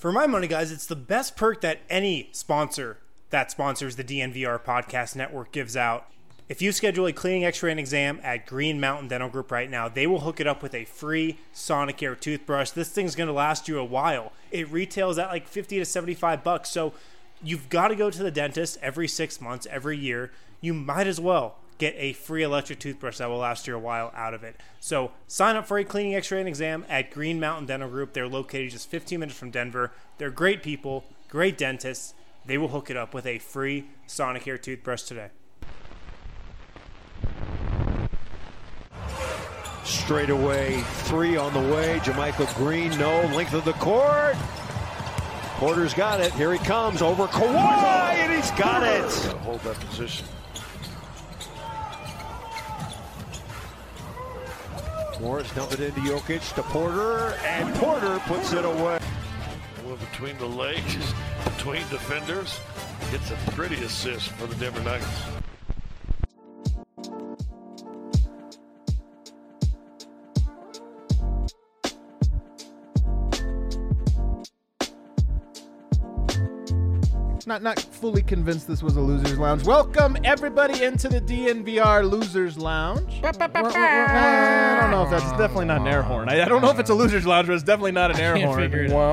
For my money, guys, it's the best perk that any sponsor that sponsors the DNVR Podcast Network gives out. If you schedule a cleaning, x-ray, and exam at Green Mountain Dental Group right now, they will hook it up with a free Sonicare toothbrush. This thing's going to last you a while. It retails at like $50 to $75, so you've got to go to the dentist every 6 months, every year. You might as well get a free electric toothbrush that will last you a while out of it. So sign up for a cleaning, x-ray, and exam at Green Mountain Dental Group. They're located just 15 minutes from Denver. They're great people, great dentists. They will hook it up with a free Sonicare toothbrush today. Straight away, three on the way. Jermichael Green, no. Length of the court. Porter's got it. Here he comes over Kawhi, and he's got it. Hold that position. Morris dumped it into Jokic to Porter, and Porter puts it away. Well, between the legs, between defenders, gets a pretty assist for the Denver Nuggets. Not fully convinced this was a Losers Lounge. Welcome, everybody, into the DNVR Losers Lounge. I don't know if that's definitely not an air horn. I don't know if it's a Losers Lounge, but it's definitely not an air horn.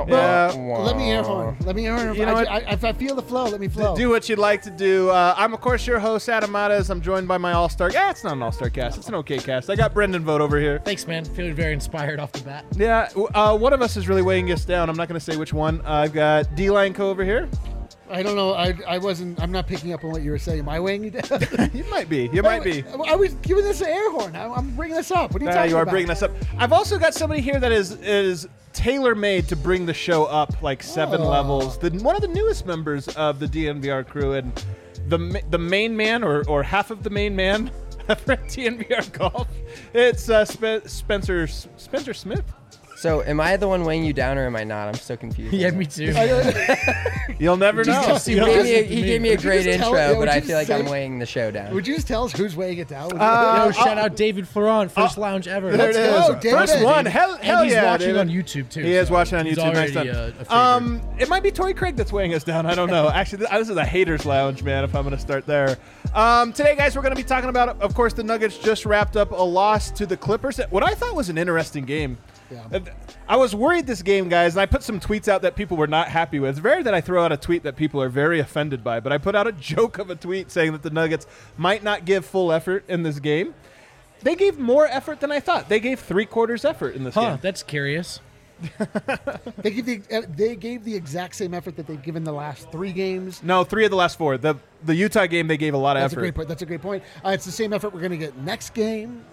Let me air horn. Let me air horn. You know what? If I feel the flow, let me flow. Do what you'd like to do. I'm, of course, your host, Adam Matas. I'm joined by my all-star. It's not an all-star cast. It's an okay cast. I got Brendan Vogt over here. Thanks, man. Feeling very inspired off the bat. Yeah. One of us is really weighing us down. I'm not going to say which one. I've got D-Line Co. over here. I don't know. I'm not picking up on what you were saying. Am I weighing you down? You might be. You might be. I was giving this an air horn. I'm bringing this up. What are you talking about? You are bringing this up. I've also got somebody here that is tailor-made to bring the show up like 7 levels. One of the newest members of the DNVR crew and the main man or half of the main man for DNVR Golf. It's Spencer Smith. So, am I the one weighing you down, or am I not? I'm so confused. Yeah, me too. You'll never know. He gave me a great intro, but I feel like I'm weighing the show down. Would you just tell us who's weighing it down? Shout out David Floron, first lounge ever. There it is. Go, David. First one. Hell he's yeah, watching David. on YouTube, too. He is watching on he's YouTube. Nice already, time. a favorite. It might be Torrey Craig that's weighing us down. I don't know. Actually, this is a haters lounge, man, if I'm going to start there. Today, guys, we're going to be talking about, of course, the Nuggets just wrapped up a loss to the Clippers. What I thought was an interesting game. Yeah. I was worried this game, guys, and I put some tweets out that people were not happy with. It's rare that I throw out a tweet that people are very offended by, but I put out a joke of a tweet saying that the Nuggets might not give full effort in this game. They gave more effort than I thought. They gave 3/4 effort in this game. That's curious. They gave the exact same effort that they've given the last 3 games. No, 3 of the last 4. The Utah game, they gave a lot of effort. That's a great point. It's the same effort we're going to get next game.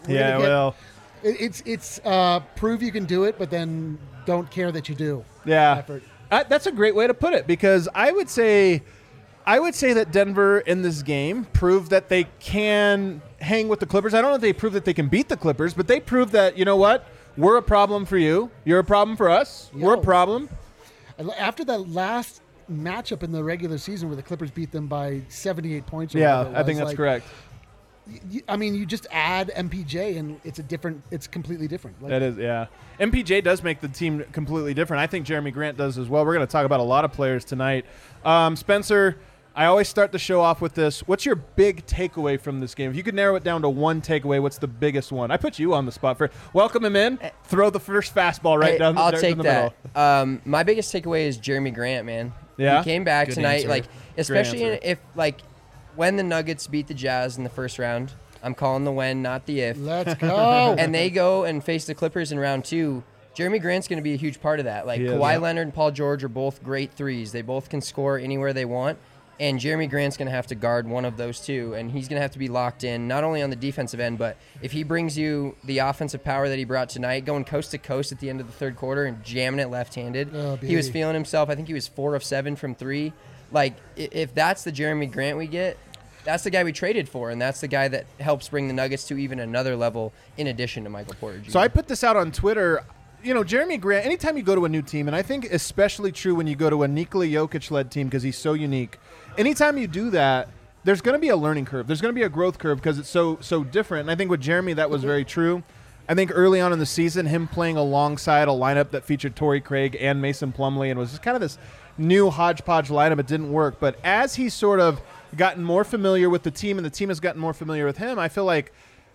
It's prove you can do it, but then don't care that you do. Yeah, effort. That's a great way to put it, because I would say that Denver in this game proved that they can hang with the Clippers. I don't know if they proved that they can beat the Clippers, but they proved that, you know what? We're a problem for you. You're a problem for us. We're a problem. After that last matchup in the regular season where the Clippers beat them by 78 points. Yeah, I think that's correct. You just add MPJ and it's completely different. That is, yeah. MPJ does make the team completely different. I think Jeremy Grant does as well. We're going to talk about a lot of players tonight. Spencer, I always start the show off with this. What's your big takeaway from this game? If you could narrow it down to one takeaway, what's the biggest one? I put you on the spot for welcome him in. Throw the first fastball right down I'll the take middle. that. My biggest takeaway is Jeremy Grant, man. Yeah? He came back Good tonight, answer. especially when the Nuggets beat the Jazz in the first round. I'm calling the when, not the if. Let's go. And they go and face the Clippers in round 2. Jeremy Grant's going to be a huge part of that. Kawhi Leonard and Paul George are both great threes. They both can score anywhere they want. And Jeremy Grant's going to have to guard one of those two, and he's going to have to be locked in, not only on the defensive end, but if he brings you the offensive power that he brought tonight, going coast to coast at the end of the third quarter and jamming it left-handed. He was feeling himself. I think he was 4 of 7 from 3. If that's the Jeremy Grant we get, that's the guy we traded for, and that's the guy that helps bring the Nuggets to even another level in addition to Michael Porter Jr. So I put this out on Twitter. You know, Jeremy Grant, anytime you go to a new team, and I think especially true when you go to a Nikola Jokic-led team because he's so unique, anytime you do that, there's going to be a learning curve. There's going to be a growth curve because it's so different. And I think with Jeremy, that was very true. I think early on in the season, him playing alongside a lineup that featured Torrey Craig and Mason Plumlee and was just kind of this new hodgepodge lineup, it didn't work. But as he's sort of gotten more familiar with the team and the team has gotten more familiar with him, I feel like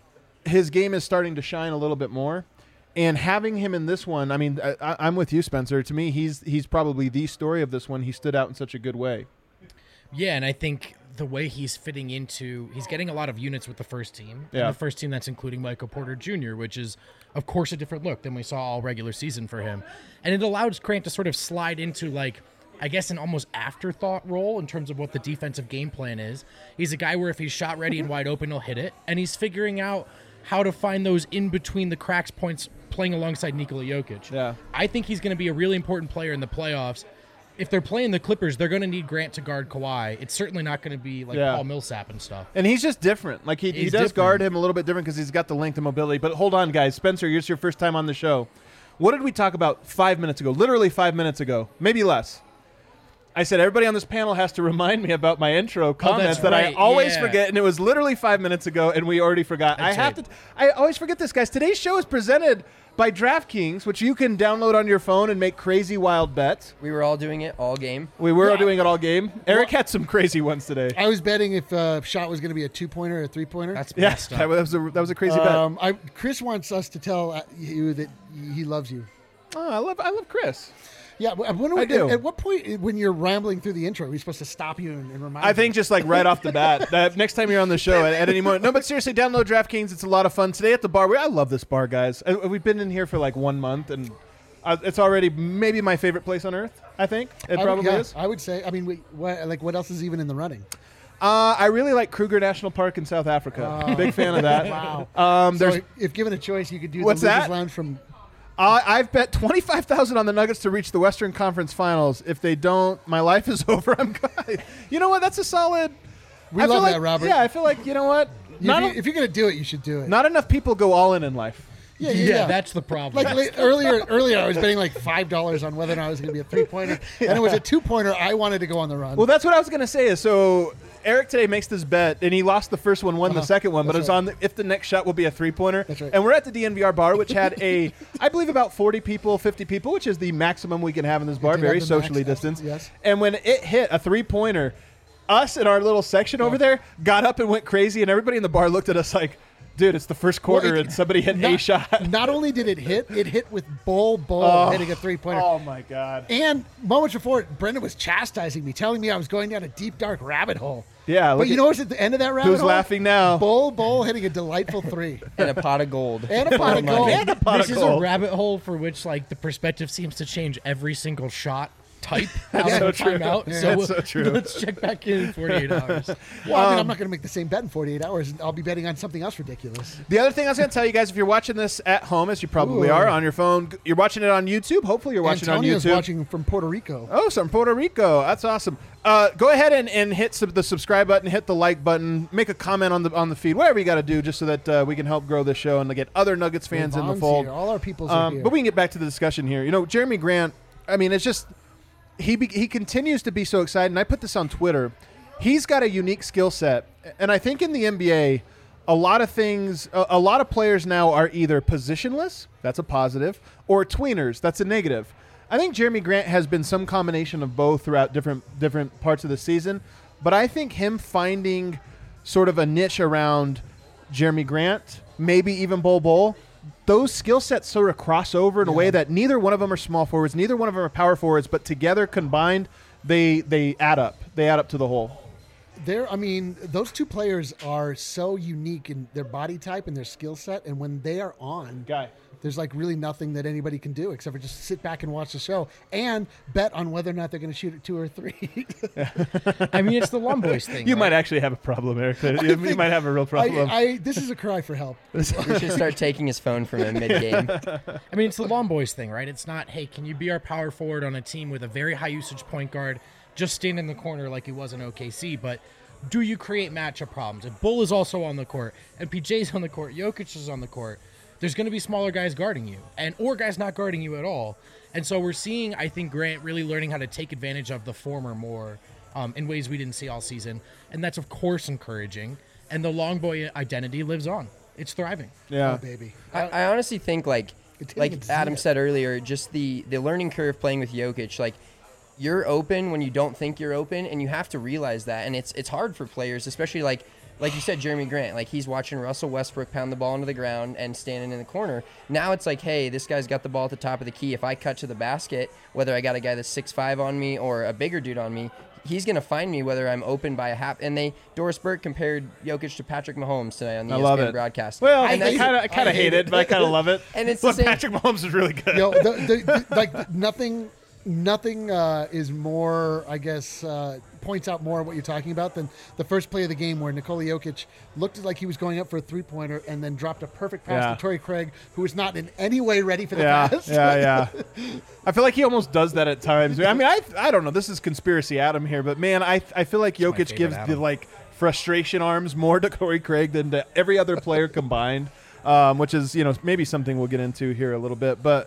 his game is starting to shine a little bit more. And having him in this one, I mean, I'm with you, Spencer. To me, he's probably the story of this one. He stood out in such a good way. Yeah, and I think the way he's fitting into, he's getting a lot of units with the first team. Yeah. And the first team that's including Michael Porter Jr., which is, of course, a different look than we saw all regular season for him. And it allows Grant to sort of slide into, like, I guess an almost afterthought role in terms of what the defensive game plan is. He's a guy where if he's shot ready and wide open, he'll hit it. And he's figuring out how to find those in between the cracks points playing alongside Nikola Jokic. Yeah. I think he's going to be a really important player in the playoffs. If they're playing the Clippers, they're going to need Grant to guard Kawhi. It's certainly not going to be like Paul Millsap and stuff. And he's just different. Like he does different. guard him a little bit different because he's got the length and mobility. But hold on, guys. Spencer, it's your first time on the show. What did we talk about 5 minutes ago? Literally 5 minutes ago. Maybe less. I said everybody on this panel has to remind me about my intro comments that I always forget, and it was literally 5 minutes ago, and we already forgot. I always forget this, guys. Today's show is presented by DraftKings, which you can download on your phone and make crazy wild bets. We were all doing it all game. We were doing it all game. Eric had some crazy ones today. I was betting if shot was going to be a 2-pointer or a 3-pointer. That's Yeah, messed up. that was a crazy bet. Chris wants us to tell you that he loves you. Oh, I love Chris. Yeah, I do. At what point, when you're rambling through the intro, are we supposed to stop you and remind you? I think just like right off the bat, that next time you're on the show at any moment. No, but seriously, download DraftKings. It's a lot of fun. Today at the bar, I love this bar, guys. We've been in here for like 1 month, and it's already maybe my favorite place on earth, I think. It probably is. I would say. I mean, what else is even in the running? I really like Kruger National Park in South Africa. Big fan of that. Wow. There's if given a choice, you could do What's the Losers that? Lounge from... I've bet $25,000 on the Nuggets to reach the Western Conference Finals. If they don't, my life is over. I'm good. You know what? That's a solid. We love that, Robert. Yeah, I feel like, you know what? If you're going to do it, you should do it. Not enough people go all in life. Yeah, that's the problem. Like earlier, I was betting like $5 on whether or not it was going to be a 3-pointer, and it was a 2-pointer. I wanted to go on the run. Well, that's what I was going to say. So Eric today makes this bet, and he lost the first one, won the second one, but That's it's on if the next shot will be a 3-pointer. That's right. And we're at the DNVR bar, which had I believe about 40 people, 50 people, which is the maximum we can have in this bar, did very have the max, socially distanced. yes. And when it hit a 3-pointer, us in our little section over there got up and went crazy, and everybody in the bar looked at us like, dude, it's the first quarter, and somebody hit a shot. Not only did it hit with Bull hitting a 3-pointer. Oh, my God. And moments before, Brendan was chastising me, telling me I was going down a deep, dark rabbit hole. Yeah. But you know what's at the end of that rabbit hole? Who's laughing now? Bull hitting a delightful 3. And a pot of gold. And a pot of gold. And a pot This of is a gold. rabbit hole for which, like, the perspective seems to change every single shot type out so of the true. timeout. Yeah, So that's so true. let's check back in 48 hours. Well, I mean, I'm not going to make the same bet in 48 hours. I'll be betting on something else ridiculous. The other thing I was going to tell you guys, if you're watching this at home, as you probably are on your phone, you're watching it on YouTube. Hopefully you're watching Antonio's it on YouTube. watching from Puerto Rico. Oh, from Puerto Rico. That's awesome. Go ahead and hit the subscribe button, hit the like button, make a comment on the feed, whatever you got to do just so that we can help grow the show and to get other Nuggets fans in the Vaugh's fold. here. All our peoples are here. But we can get back to the discussion here. You know, Jeremy Grant, I mean, it's just he continues to be so excited, and I put this on Twitter. He's got a unique skill set, and I think in the NBA, a lot of players now are either positionless, that's a positive, or tweeners, that's a negative. I think Jeremy Grant has been some combination of both throughout different parts of the season, but I think him finding sort of a niche around Jeremy Grant, maybe even Bol, those skill sets sort of cross over in a way that neither one of them are small forwards, neither one of them are power forwards, but together combined, they add up. They add up to the whole. Those two players are so unique in their body type and their skill set, and when they are on, there's like really nothing that anybody can do except for just sit back and watch the show and bet on whether or not they're going to shoot it 2 or 3. I mean, it's the Lum Boys thing. You right? might actually have a problem, Eric. You might have a real problem. This is a cry for help. We should start taking his phone from him mid-game. I mean, it's the Lum Boys thing, right? It's not, hey, can you be our power forward on a team with a very high usage point guard, just stand in the corner like he was in OKC, but do you create matchup problems? If Bull is also on the court, and PJ's on the court, Jokic is on the court, there's going to be smaller guys guarding you, or guys not guarding you at all. And so we're seeing, I think, Grant really learning how to take advantage of the former more in ways we didn't see all season. And that's, of course, encouraging. And the long boy identity lives on. It's thriving. Yeah, Oh, baby. I honestly think like Adam said earlier, just the learning curve playing with Jokic, like you're open when you don't think you're open, and you have to realize that, and it's hard for players, especially like you said, Jeremy Grant, like he's watching Russell Westbrook pound the ball into the ground and standing in the corner. Now it's like, hey, this guy's got the ball at the top of the key. If I cut to the basket, whether I got a guy that's 6'5" on me or a bigger dude on me, he's going to find me whether I'm open by a half. And Doris Burke compared Jokic to Patrick Mahomes today on the ESPN broadcast. Well, I kind of hate it, but I kind of love it. And it's but Patrick Mahomes is really good. Yo, like nothing is more, I guess, points out more what you're talking about than the first play of the game where Nikola Jokic looked like he was going up for a three-pointer and then dropped a perfect pass to Torrey Craig, who was not in any way ready for the pass. Yeah. I feel like he almost does that at times. I mean, I don't know. This is conspiracy Adam here, but man, I feel like Jokic gives the like frustration arms more to Torrey Craig than to every other player combined, which is maybe something we'll get into here a little bit. But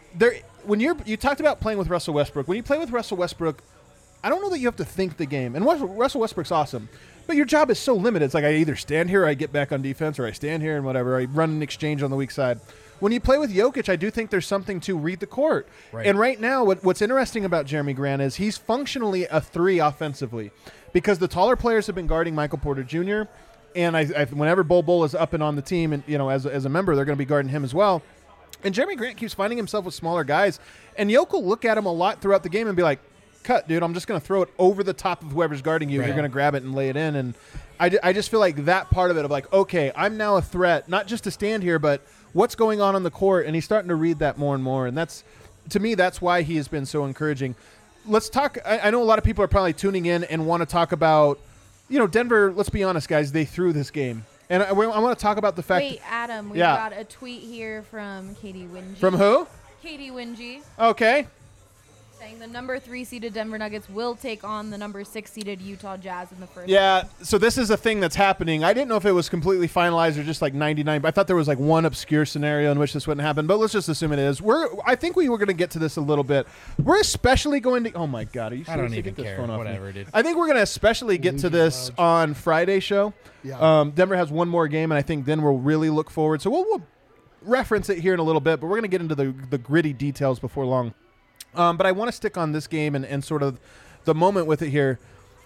when you talked about playing with Russell Westbrook, when you play with Russell Westbrook, I don't know that you have to think the game. And Russell Westbrook's awesome, but your job is so limited. It's like I either stand here or I get back on defense, or I stand here and whatever. I run an exchange on the weak side. When you play with Jokic, I do think there's something to read the court. Right. And right now, what's interesting about Jeremy Grant is he's functionally a 3 offensively, because the taller players have been guarding Michael Porter Jr. And whenever Bol is up and on the team, and as a member, they're going to be guarding him as well. And Jeremy Grant keeps finding himself with smaller guys. And Jokic will look at him a lot throughout the game and be like, cut, dude, I'm just going to throw it over the top of whoever's guarding you. Right. You're going to grab it and lay it in. And I just feel like that part of it of like, okay, I'm now a threat, not just to stand here, but what's going on the court. And he's starting to read that more and more. And to me, that's why he has been so encouraging. Let's talk. I know a lot of people are probably tuning in and want to talk about, Denver, let's be honest, guys, they threw this game. And I want to talk about the fact. Wait, Adam, we got a tweet here from Katie Wingy. From who? Katie Wingy. Okay. Saying the number 3 seeded Denver Nuggets will take on the number 6 seeded Utah Jazz in the first. Yeah, so this is a thing that's happening. I didn't know if it was completely finalized or just like 99. But I thought there was like one obscure scenario in which this wouldn't happen. But let's just assume it is. I think we were going to get to this a little bit. We're especially going to. Oh my God, are you? I don't even care. Whatever, dude. I think we're going to especially get to this on Friday show. Yeah. Denver has one more game, and I think then we'll really look forward. So we'll reference it here in a little bit, but we're going to get into the gritty details before long. But I want to stick on this game and sort of the moment with it here.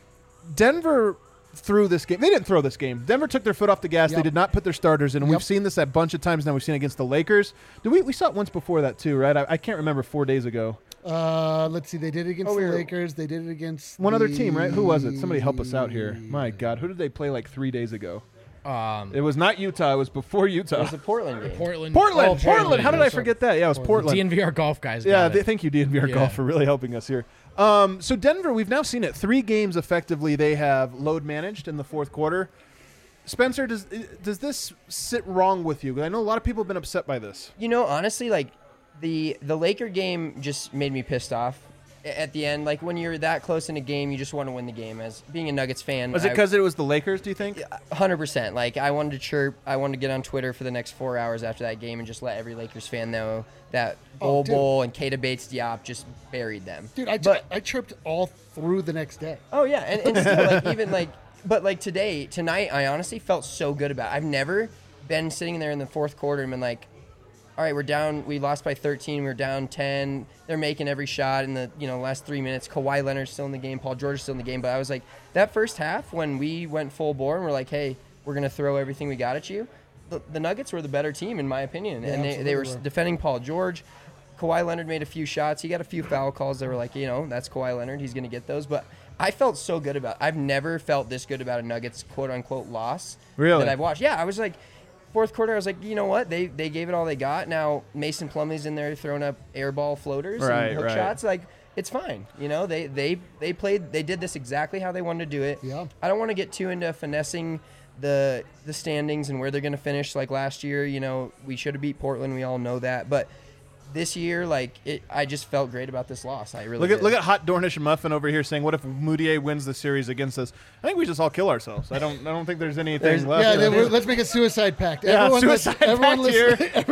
Denver threw this game. They didn't throw this game. Denver took their foot off the gas. Yep. They did not put their starters in. And we've seen this a bunch of times now. We've seen it against the Lakers. We saw it once before that too, right? I can't remember 4 days ago. Let's see. They did it against the Lakers. They did it against one other team, right? Who was it? Somebody help us out here. My God. Who did they play like 3 days ago? It was not Utah. It was before Utah. It was the Portland game. Portland. How did I forget that? Yeah, it was Portland. DNVR Golf guys. Thank you, DNVR Golf, for really helping us here. So Denver, we've now seen it 3 games effectively. They have load managed in the fourth quarter. Spencer, does this sit wrong with you? I know a lot of people have been upset by this. Honestly, like the Laker game just made me pissed off. At the end, like when you're that close in a game, you just want to win the game. As being a Nuggets fan, was it because it was the Lakers? Do you think? 100%. Like I wanted to chirp. I wanted to get on Twitter for the next 4 hours after that game and just let every Lakers fan know that Bol and Keita Bates-Diop just buried them. Dude, I chirped all through the next day. Oh yeah, and still, like even like, but like tonight, I honestly felt so good about it. I've never been sitting there in the fourth quarter and been like, all right, we're down. We lost by 13. We're down 10. They're making every shot in the last 3 minutes. Kawhi Leonard's still in the game. Paul George is still in the game. But I was like, that first half when we went full bore and we're like, hey, we're gonna throw everything we got at you. The Nuggets were the better team in my opinion, and they were defending Paul George. Kawhi Leonard made a few shots. He got a few foul calls that were like, that's Kawhi Leonard. He's gonna get those. But I felt so good about it. I've never felt this good about a Nuggets quote unquote loss that I've watched. Yeah, I was like. Fourth quarter, I was like, you know what? They gave it all they got. Now Mason Plumlee's in there throwing up air ball floaters and hook shots. Like it's fine. They played. They did this exactly how they wanted to do it. Yeah. I don't want to get too into finessing the standings and where they're going to finish. Like last year, we should have beat Portland. We all know that, but. This year, I just felt great about this loss. I really look at Hot Dornish Muffin over here saying, "What if Moutier wins the series against us?" I think we just all kill ourselves. I don't think there's anything left. Yeah, let's make a suicide pact. Yeah, everyone listening here.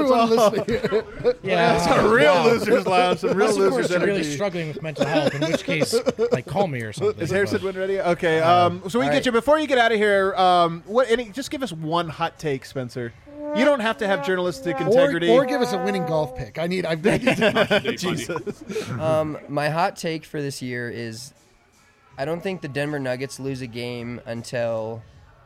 Yeah, it's a real losers lounge. Some real losers energy. Really struggling with mental health. In which case, call me or something. Is Harrison Wind ready? Okay. So we get you before you get out of here. Just give us one hot take, Spencer. You don't have to have journalistic integrity. Or give us a winning golf pick. I need Jesus. My hot take for this year is I don't think the Denver Nuggets lose a game until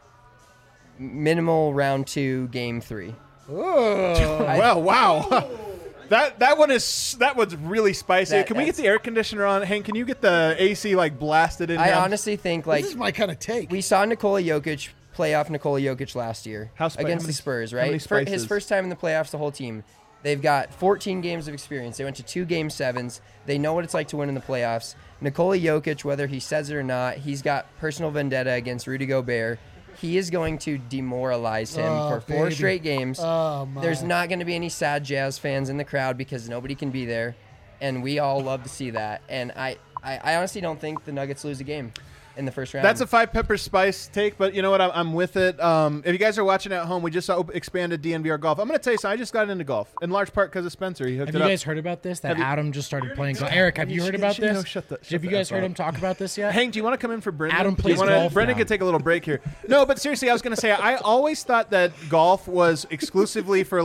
minimal round 2, game 3. Well, wow. That one's really spicy. Can we get the air conditioner on? Hank, can you get the AC blasted in? I honestly think this is my kind of take. We saw Nikola Jokic playoff Nikola Jokic last year against the Spurs, right? His first time in the playoffs, the whole team. They've got 14 games of experience. They went to 2 Game 7s. They know what it's like to win in the playoffs. Nikola Jokic, whether he says it or not, he's got personal vendetta against Rudy Gobert. He is going to demoralize him for 4 straight games. There's not going to be any sad Jazz fans in the crowd because nobody can be there, and we all love to see that. And I honestly don't think the Nuggets lose a game in the first round. That's a 5 pepper spice take, but you know what? I'm with it. If you guys are watching at home, we just expanded DNVR golf. I'm going to tell you something. I just got into golf, in large part because of Spencer. He hooked it up. Have you guys heard about this? That Adam just started playing golf. Eric, have you heard about this? No, shut have you guys heard him talk about this yet? Hank, do you want to come in for Brendan? Adam plays golf Brendan could take a little break here. No, but seriously, I was going to say, I always thought that golf was exclusively for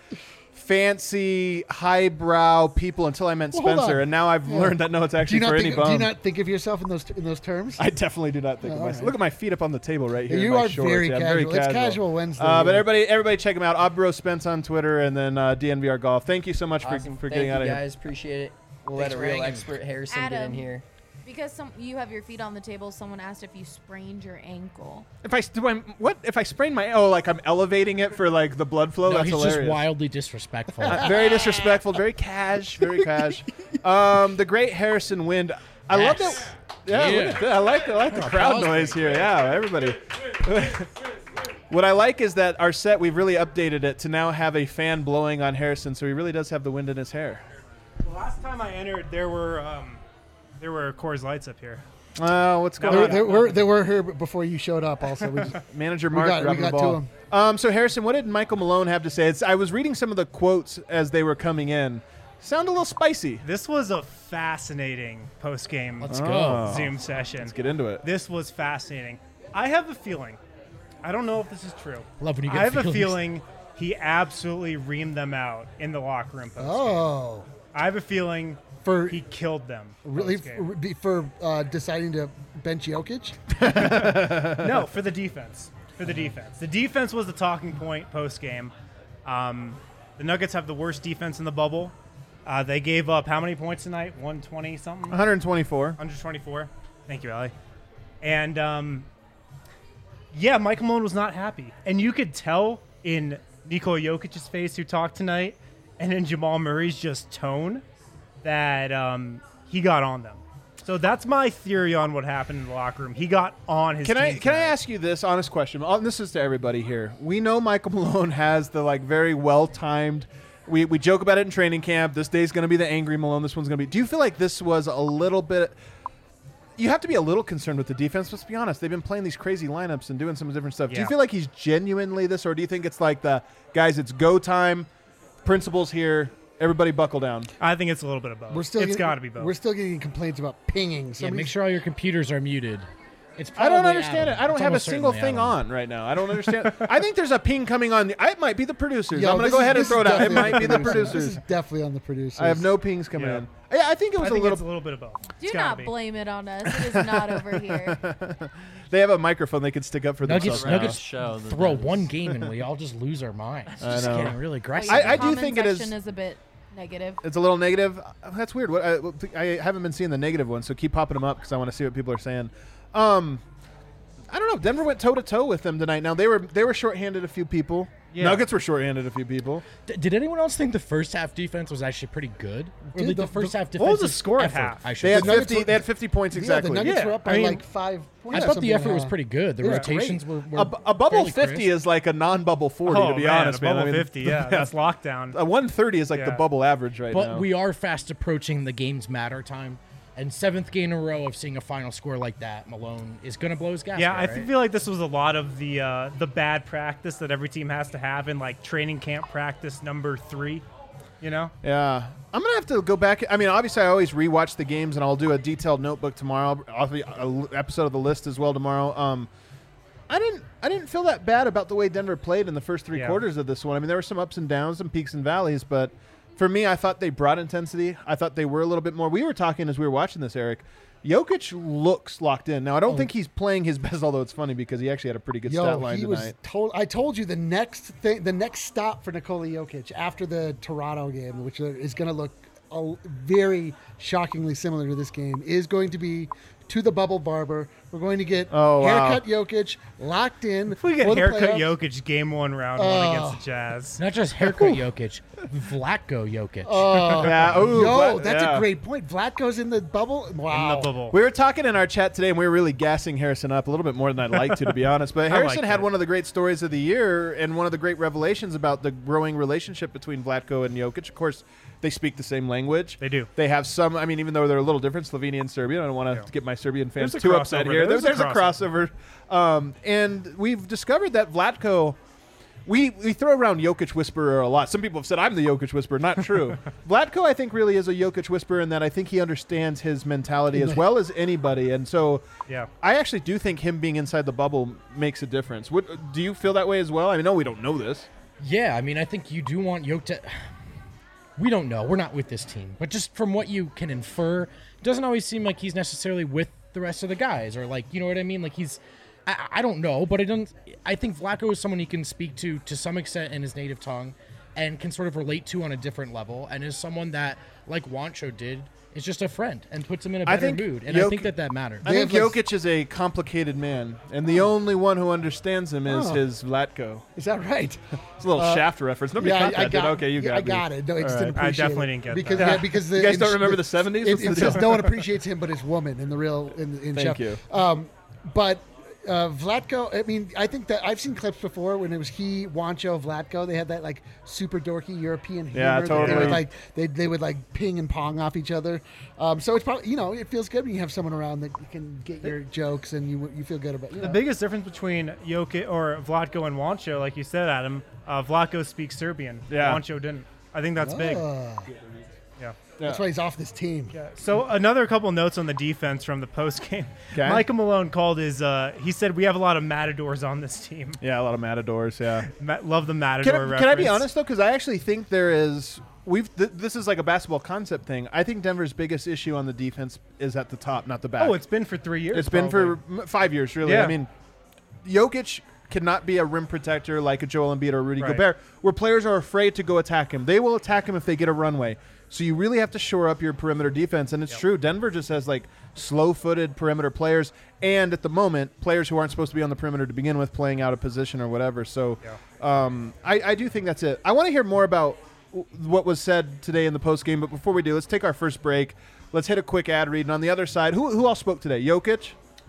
fancy, highbrow people until I met Spencer, and now I've learned that it's actually for any bum. Do you not think of yourself in those terms? I definitely do not think of myself. Right. Look at my feet up on the table right here. You are very casual. It's casual Wednesday. But everybody check him out. Obro Spence on Twitter, and then DNVR Golf. Thank you so much for getting out of here. Guys, appreciate it. We'll let a real expert Harrison get in here. Because you have your feet on the table, someone asked if you sprained your ankle. If I sprain my I'm elevating it for the blood flow. No, that's he's hilarious. Just wildly disrespectful. Very disrespectful. Very cash. The great Harrison Wind. I love that. Yeah, look at that. I like the crowd noise here. Yeah, everybody. What I like is that our set, we've really updated it to now have a fan blowing on Harrison, so he really does have the wind in his hair. Well, last time I entered, there were Coors Lights up here. What's going on? They were here before you showed up. Also, Manager Mark we got to him. So Harrison, what did Michael Malone have to say? I was reading some of the quotes as they were coming in. Sound a little spicy. This was a fascinating post-game Zoom session. Let's get into it. This was fascinating. I have a feeling. I don't know if this is true. Love when you get I have a feeling he absolutely reamed them out in the locker room post-game. I have a feeling he killed them. Really? For deciding to bench Jokic? No, for the defense. The defense was the talking point post-game. The Nuggets have the worst defense in the bubble. They gave up how many points tonight? 120-something? 124. 124. Thank you, Allie. And, Michael Malone was not happy. And you could tell in Nikola Jokic's face who talked tonight and in Jamal Murray's just tone that he got on them. So that's my theory on what happened in the locker room. He got on his team. Can I ask you this honest question? This is to everybody here. We know Michael Malone has the very well-timed. We joke about it in training camp. This day's going to be the angry Malone. This one's going to be. Do you feel like this was a little bit? You have to be a little concerned with the defense. Let's be honest. They've been playing these crazy lineups and doing some different stuff. Yeah. Do you feel like he's genuinely this, or do you think it's like the guys? It's go time. Principles here. Everybody buckle down. I think it's a little bit of both. It's got to be both. We're still getting complaints about pinging. Make sure all your computers are muted. I don't understand it. I don't have a single thing on right now. I don't understand. I think there's a ping coming on. It might be the producers. I'm going to go ahead and throw it out. It might be the producers. This is definitely on the producers. I have no pings coming in. Yeah, I think it was a little bit of both. Do not blame it on us. It is not over here. They have a microphone they could stick up for themselves. Nuggets throw one game and we all just lose our minds. It's just getting really aggressive. I do think it is a bit negative. It's a little negative. That's weird. I haven't been seeing the negative ones, so keep popping them up because I want to see what people are saying. I don't know. Denver went toe-to-toe with them tonight. Now, they were shorthanded a few people. Yeah. Nuggets were shorthanded a few people. Did anyone else think the first half defense was actually pretty good? Or the first half defense? What was the score at half? They had 50 points exactly. The Nuggets were up by 5 points. I thought the effort was pretty good. The rotations were a bubble 50 crisp. is like a non-bubble 40, to be honest. A bubble 50, that's lockdown. A 130 is like the bubble average right now. But we are fast approaching the games matter time. And 7th game in a row of seeing a final score like that, Malone is going to blow his gasket. Yeah, I feel like this was a lot of the bad practice that every team has to have in training camp practice number 3. You know? Yeah. I'm going to have to go back. I mean, obviously, I always rewatch the games, and I'll do a detailed notebook tomorrow. I'll be an episode of The List as well tomorrow. I didn't feel that bad about the way Denver played in the first three quarters of this one. I mean, there were some ups and downs, some peaks and valleys, but for me, I thought they brought intensity. I thought they were a little bit more. We were talking as we were watching this, Eric. Jokic looks locked in. Now, I don't think he's playing his best, although it's funny because he actually had a pretty good stat line tonight. I told you the next stop for Nikola Jokic after the Toronto game, which is going to look very shockingly similar to this game, is going to be to the bubble barber. We're going to get haircut Jokic locked in. If we get haircut Jokic game 1 round 1 against the Jazz. Not just haircut Jokic, Vlatko Jokic. That's a great point. Vlatko's in the bubble. Wow. In the bubble. We were talking in our chat today, and we were really gassing Harrison up a little bit more than I'd like to be honest. But Harrison had one of the great stories of the year and one of the great revelations about the growing relationship between Vlatko and Jokic. Of course, they speak the same language. They do. They have some, I mean, even though they're a little different, Slovenia and Serbian. I don't want to get my Serbian fans too upset here. There's a crossover. And we've discovered that Vlatko, we throw around Jokic Whisperer a lot. Some people have said I'm the Jokic Whisperer. Not true. Vlatko, I think, really is a Jokic Whisperer in that I think he understands his mentality as well as anybody. And so I actually do think him being inside the bubble makes a difference. Do you feel that way as well? I know we don't know this. Yeah, I mean, I think you do want Jokic to... We don't know. We're not with this team. But just from what you can infer, it doesn't always seem like he's necessarily with the rest of the guys, or like, you know what I mean? Like I don't know, but I think Vlatko is someone he can speak to some extent in his native tongue and can sort of relate to on a different level, and is someone that, like Juancho did, is just a friend and puts him in a better mood. And I think that matters. I think Jokic is a complicated man, and the only one who understands him is his Vlatko. Is that right? It's a little Shaft reference. Nobody caught that, did. Okay, you got it. I got it. No, I just didn't appreciate I definitely didn't get because, that. Because you guys don't remember the 70s? It says no one appreciates him but his woman in the real in Thank you. But Vlatko, I mean, I think that I've seen clips before when it was he, Juancho, Vlatko. They had that like super dorky European humor. Yeah, totally. They would like ping and pong off each other. So it's probably, it feels good when you have someone around that you can get your jokes and you feel good about. The biggest difference between Jokic or Vlatko and Juancho, like you said, Adam, Vlatko speaks Serbian. Juancho didn't. I think that's big. That's why he's off this team. Yeah. So another couple notes on the defense from the post game. Okay. Michael Malone called he said we have a lot of matadors on this team. Yeah, a lot of matadors. Yeah, love the matador reference. Can I be honest though? Because I actually think there is. This is like a basketball concept thing. I think Denver's biggest issue on the defense is at the top, not the back. Oh, it's been for 3 years. It's been for 5 years, really. Yeah. I mean, Jokic cannot be a rim protector like a Joel Embiid or Rudy Gobert, where players are afraid to go attack him. They will attack him if they get a runway. So you really have to shore up your perimeter defense, and it's true. Denver just has like slow-footed perimeter players, and at the moment, players who aren't supposed to be on the perimeter to begin with, playing out of position or whatever. So I do think that's it. I want to hear more about what was said today in the postgame, but before we do, let's take our first break. Let's hit a quick ad read. And on the other side, who else spoke today? Jokic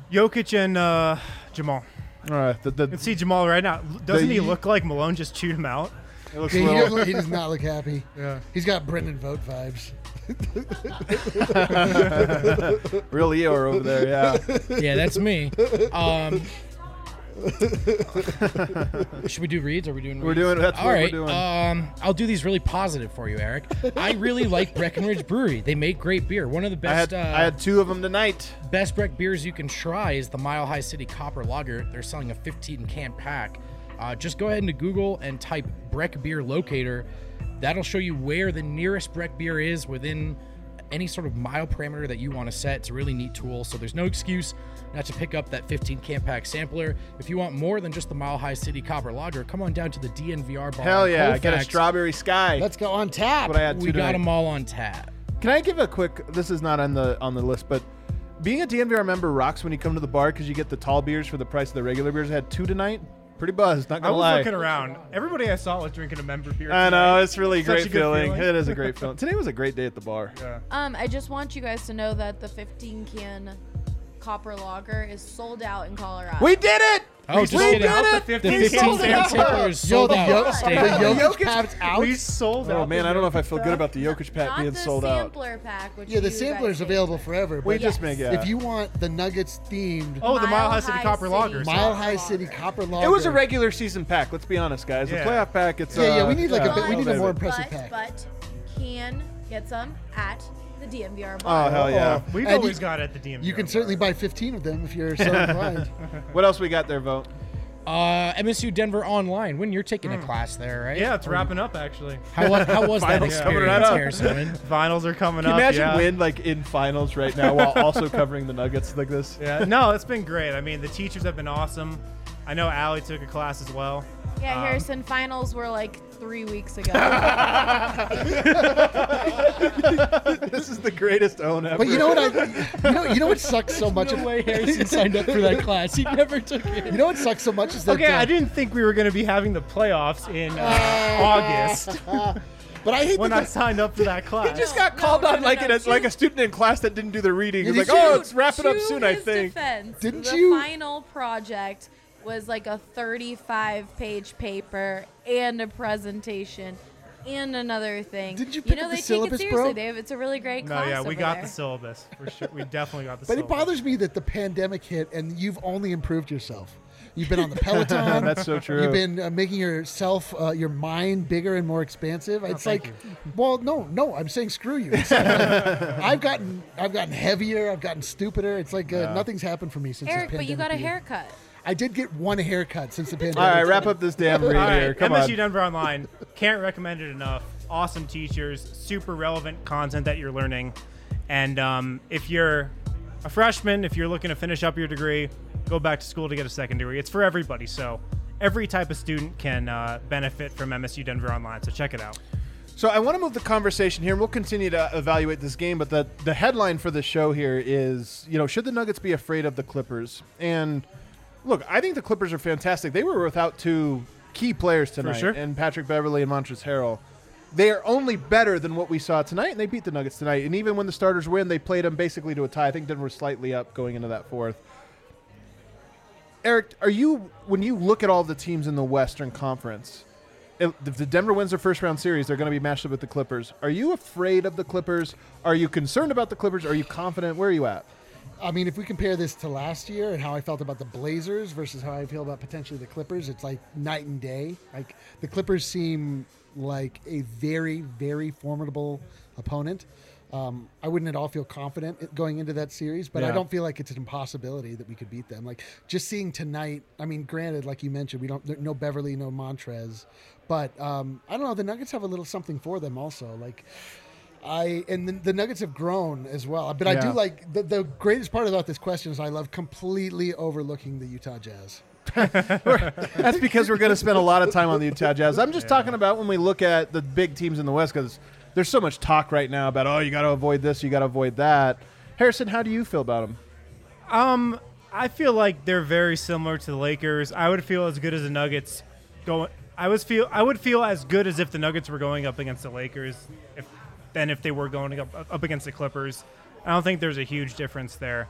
and Jamal. All right. You can see Jamal right now. Doesn't he look like Malone just chewed him out? He does not look happy. Yeah. He's got Brendan Vogt vibes. Real Eeyore over there, yeah. Yeah, that's me. Should we do reads? Are we doing reads? We're doing that's All what right. we're doing. I'll do these really positive for you, Eric. I really like Breckenridge Brewery. They make great beer. One of the best. I had 2 of them tonight. Best Breck beers you can try is the Mile High City Copper Lager. They're selling a 15-can pack. Just go ahead into Google and type Breck Beer Locator. That'll show you where the nearest Breck beer is within any sort of mile parameter that you want to set. It's a really neat tool, so there's no excuse not to pick up that 15-can pack sampler. If you want more than just the Mile High City Copper Lager, come on down to the DNVR bar. Hell yeah, I got a Strawberry Sky. Let's go on tap. What I had we got them all on tap. Can I give a quick, this is not on the list, but being a DNVR member rocks when you come to the bar because you get the tall beers for the price of the regular beers. I had 2 tonight. Pretty buzzed, not gonna lie. I was looking around. Everybody I saw was drinking a member beer. I know, it's really a great feeling. It is a great feeling. Today was a great day at the bar. Yeah. I just want you guys to know that the 15-can Copper Lager is sold out in Colorado. We did it! Oh, just kidding. The The 15-can sampler is sold out. The Jokic pack's out. We sold out. Oh man, I don't know if I feel good about the Jokic pack being sold out. Not the sampler pack, which The sampler is available forever. We But just make it. if you want the Nuggets themed, the Mile High City Copper Lager. Mile High City Copper Lager. It was a regular season pack. Let's be honest, guys. The playoff pack. It's we need we need a more impressive pack. But can get some at the DNVR Oh bar. hell yeah! We've always got it at the DMV. You can certainly buy 15 of them if you're so inclined. What else we got there, Vote? MSU Denver online. When you're taking a class there, right? Yeah, it's wrapping up actually. How was that Finals coming right experience, up. Harrison? Finals are coming Can up. you imagine yeah. Win like in finals right now while also covering the Nuggets like this? Yeah, no, it's been great. I mean, the teachers have been awesome. I know Allie took a class as well. Yeah, Harrison, finals were like 3 weeks ago. This is the greatest own ever. But you know what? You know what sucks so much? No way Harrison signed up for that class. He never took it. You know what sucks so much is that. Okay, I didn't think we were going to be having the playoffs in August But I hate when I signed up for that class. He just got called on like a student in class that didn't do the reading. He's like, Did oh, you- it's wrapping up soon, I his think. Defense, Didn't the you- final project was like a 35-page paper and a presentation and another thing. Didn't you pick up they the syllabus, take it bro? seriously. It's a really great No, class. yeah, we over got there. the syllabus for sure. We definitely got the But syllabus. it bothers me that the pandemic hit and you've only improved yourself. You've been on the Peloton. That's so true. You've been making yourself, your mind bigger and more expansive. It's thank like, well, no, I'm saying screw you. It's like, I've gotten heavier. I've gotten stupider. It's like nothing's happened for me since Eric, this but you pandemic got a began. haircut. I did get one haircut since the pandemic. All right, wrap up this damn read All here. right, Come MSU on. Denver Online. Can't recommend it enough. Awesome teachers, super relevant content that you're learning. And if you're a freshman, if you're looking to finish up your degree, go back to school to get a second degree. It's for everybody. So every type of student can benefit from MSU Denver Online. So check it out. So I want to move the conversation here, and we'll continue to evaluate this game. But the headline for the show here is, should the Nuggets be afraid of the Clippers? And look, I think the Clippers are fantastic. They were without two key players tonight, sure. and Patrick Beverley and Montrezl Harrell. They are only better than what we saw tonight, and they beat the Nuggets tonight. And even when the starters win, they played them basically to a tie. I think Denver was slightly up going into that fourth. Eric, when you look at all the teams in the Western Conference, if the Denver wins their first round series, they're going to be matched up with the Clippers. Are you afraid of the Clippers? Are you concerned about the Clippers? Are you confident? Where are you at? I mean, if we compare this to last year and how I felt about the Blazers versus how I feel about potentially the Clippers, it's like night and day. Like the Clippers seem like a very, very formidable opponent. I wouldn't at all feel confident going into that series, but I don't feel like it's an impossibility that we could beat them. Like just seeing tonight, I mean, granted, like you mentioned, no Beverly, no Montrez, but I don't know. The Nuggets have a little something for them also. Like the Nuggets have grown as well. But I do like the greatest part about this question is I love completely overlooking the Utah Jazz. That's because we're going to spend a lot of time on the Utah Jazz. I'm just talking about when we look at the big teams in the West, because there's so much talk right now about, you got to avoid this, you got to avoid that. Harrison, how do you feel about them? I feel like they're very similar to the Lakers. I would feel as good as the Nuggets going. I would feel as good as if the Nuggets were going up against the Lakers than if they were going up against the Clippers. I don't think there's a huge difference there.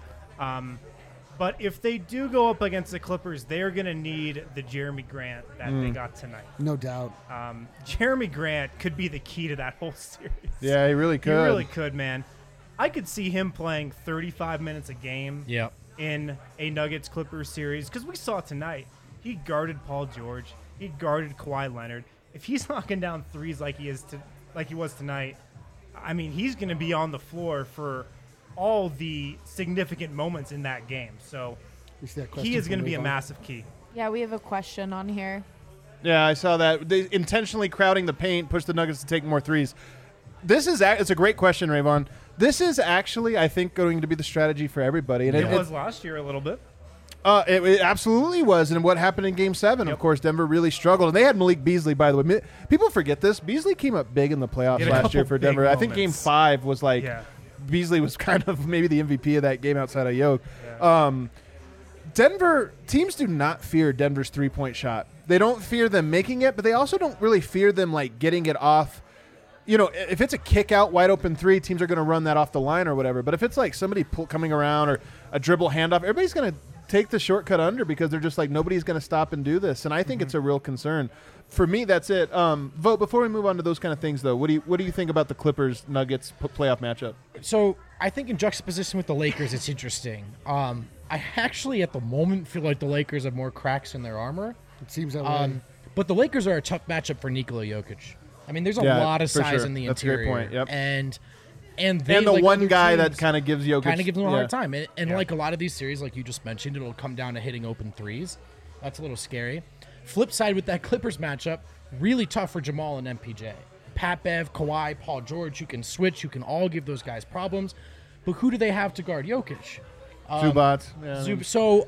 But if they do go up against the Clippers, they're going to need the Jeremy Grant that they got tonight. No doubt. Jeremy Grant could be the key to that whole series. Yeah, he really could. He really could, man. I could see him playing 35 minutes a game in a Nuggets-Clippers series, because we saw tonight. He guarded Paul George. He guarded Kawhi Leonard. If he's knocking down threes like he was tonight, I mean, he's going to be on the floor for all the significant moments in that game. So he is going to be a massive key. Yeah, we have a question on here. Yeah, I saw that. They intentionally crowding the paint, push the Nuggets to take more threes. It's a great question, Rayvon. This is actually, I think, going to be the strategy for everybody. And it was last year a little bit. It absolutely was. And what happened in Game 7, of course, Denver really struggled. And they had Malik Beasley, by the way. People forget this. Beasley came up big in the playoffs last year for Denver. I think Game 5 was like Beasley was kind of maybe the MVP of that game outside of Yoke. Yeah. Denver teams do not fear Denver's three-point shot. They don't fear them making it, but they also don't really fear them like getting it off. If it's a kick out wide open three, teams are going to run that off the line or whatever. But if it's like somebody coming around or a dribble handoff, everybody's going to take the shortcut under because they're just like, nobody's going to stop and do this. And I think it's a real concern. For me, that's it. Vote, before we move on to those kind of things, though, what do you think about the Clippers-Nuggets playoff matchup? So I think in juxtaposition with the Lakers, it's interesting. I actually, at the moment, feel like the Lakers have more cracks in their armor. It seems that way. But the Lakers are a tough matchup for Nikola Jokic. I mean, there's a lot of size in the interior. That's a great point. Yep. And they, the like one guy teams, that kind of gives Jokic them a hard time. And like a lot of these series, like you just mentioned, it'll come down to hitting open threes. That's a little scary. Flip side with that Clippers matchup, really tough for Jamal and MPJ. Pat Bev, Kawhi, Paul George, you can switch. You can all give those guys problems. But who do they have to guard Jokic? Zubac. Yeah. So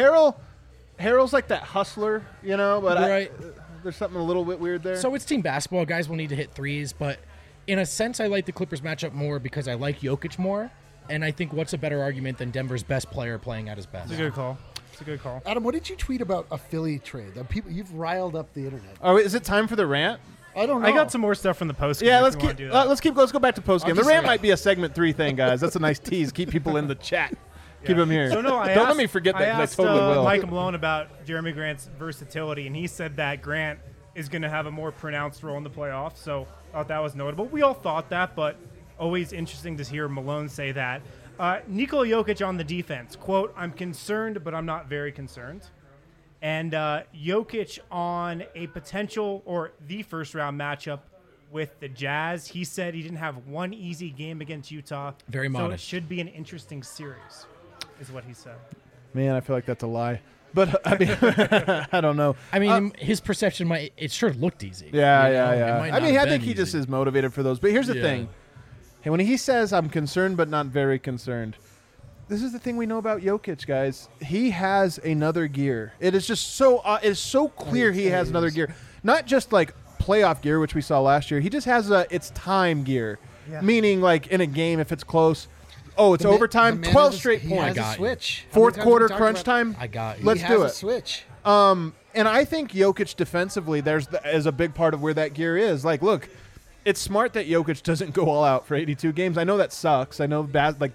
Harrell's like that hustler, you know, but right. There's something a little bit weird there. So it's team basketball. Guys will need to hit threes. But in a sense, I like the Clippers matchup more because I like Jokic more. And I think what's a better argument than Denver's best player playing at his best? It's a good call. It's a good call. Adam, what did you tweet about a Philly trade? You've riled up the internet. Oh, is it time for the rant? I don't know. I got some more stuff from the post game. Yeah, let's go back to post game. The rant say- might be a segment 3 thing, guys. That's a nice tease. Keep people in the chat. Keep them here. So no, Don't let me forget that. I asked I totally will. Mike Malone about Jeremy Grant's versatility, and he said that Grant is going to have a more pronounced role in the playoffs. So I thought that was notable. We all thought that, but always interesting to hear Malone say that. Nikola Jokic on the defense, quote, "I'm concerned, but I'm not very concerned." And Jokic on a potential or the first-round matchup with the Jazz. He said he didn't have one easy game against Utah. Very modest. So it should be an interesting series, is what he said. Man, I feel like that's a lie. But, I mean, I don't know. I mean, his perception it sure looked easy. Yeah, you know? yeah. It might I not mean, have I think been he just easy. is motivated for those. But here's the Yeah. thing. Hey, when he says, "I'm concerned but not very concerned," this is the thing we know about Jokic, guys. He has another gear. It is just so it is so clear he has another gear. Not just like playoff gear, which we saw last year. He just has it's time gear. Yeah. Meaning, like, in a game, if it's close, it's overtime, 12 straight He points. has a switch. Fourth How many times quarter have we talked crunch about- time. I got you. Let's he do has it. a switch. And I think Jokic defensively, is a big part of where that gear is. Like, look, it's smart that Jokic doesn't go all out for 82 games. I know that sucks. I know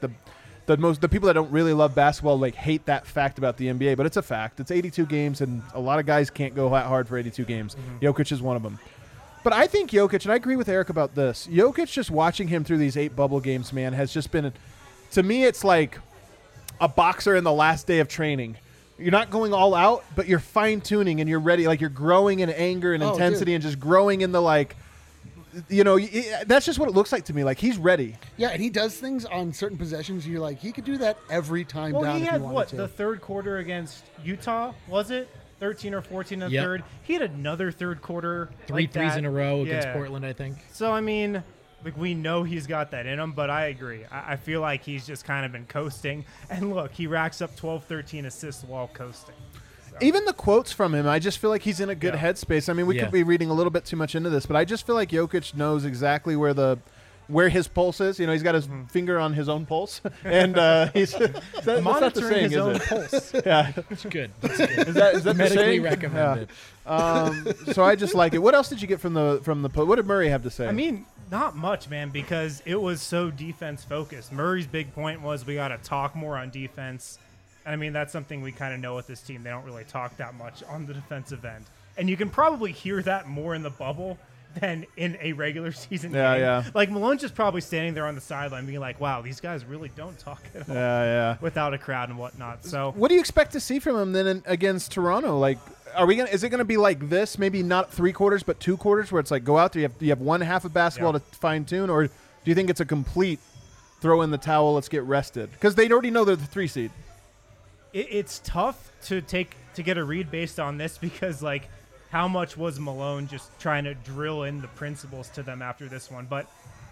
the people that don't really love basketball hate that fact about the NBA, but it's a fact. It's 82 games, and a lot of guys can't go that hard for 82 games. Jokic is one of them. But I think Jokic, and I agree with Eric about this, Jokic, just watching him through these 8 bubble games, man, has just been, to me, it's like a boxer in the last day of training. You're not going all out, but you're fine-tuning and you're ready. Like, you're growing in anger and intensity and just growing in the, that's just what it looks like to me. Like, he's ready. Yeah, and he does things on certain possessions. And you're like, he could do that every time Well, down he if had he wanted to. the third quarter against Utah, was it? 13 or 14 in the Yep. third. He had another third quarter. Three like threes that. in a row against Yeah. Portland, I think. So, I mean, we know he's got that in him, but I agree. I feel like he's just kind of been coasting. And look, he racks up 12, 13 assists while coasting. Even the quotes from him, I just feel like he's in a good headspace. I mean, we could be reading a little bit too much into this, but I just feel like Jokic knows exactly where his pulse is. You know, he's got his finger on his own pulse, and he's that's not the Monitoring saying, his is own it? pulse. Yeah, It's good. That's good. is that the Medically saying? recommended. So I just like it. What else did you get from the what did Murray have to say? I mean, not much, man, because it was so defense focused. Murray's big point was we got to talk more on defense. And I mean, that's something we kind of know with this team. They don't really talk that much on the defensive end. And you can probably hear that more in the bubble than in a regular season game. Yeah. Like, Malone's just probably standing there on the sideline being like, wow, these guys really don't talk at all yeah. without a crowd and whatnot. So What do you expect to see from him then against Toronto? Like, is it going to be like this? Maybe not 3 quarters, but 2 quarters, where it's like go out there, you have one half of basketball to fine tune, or do you think it's a complete throw in the towel, let's get rested? Because they already know they're the 3 seed. it's tough to get a read based on this because, like, how much was Malone just trying to drill in the principles to them after this one? But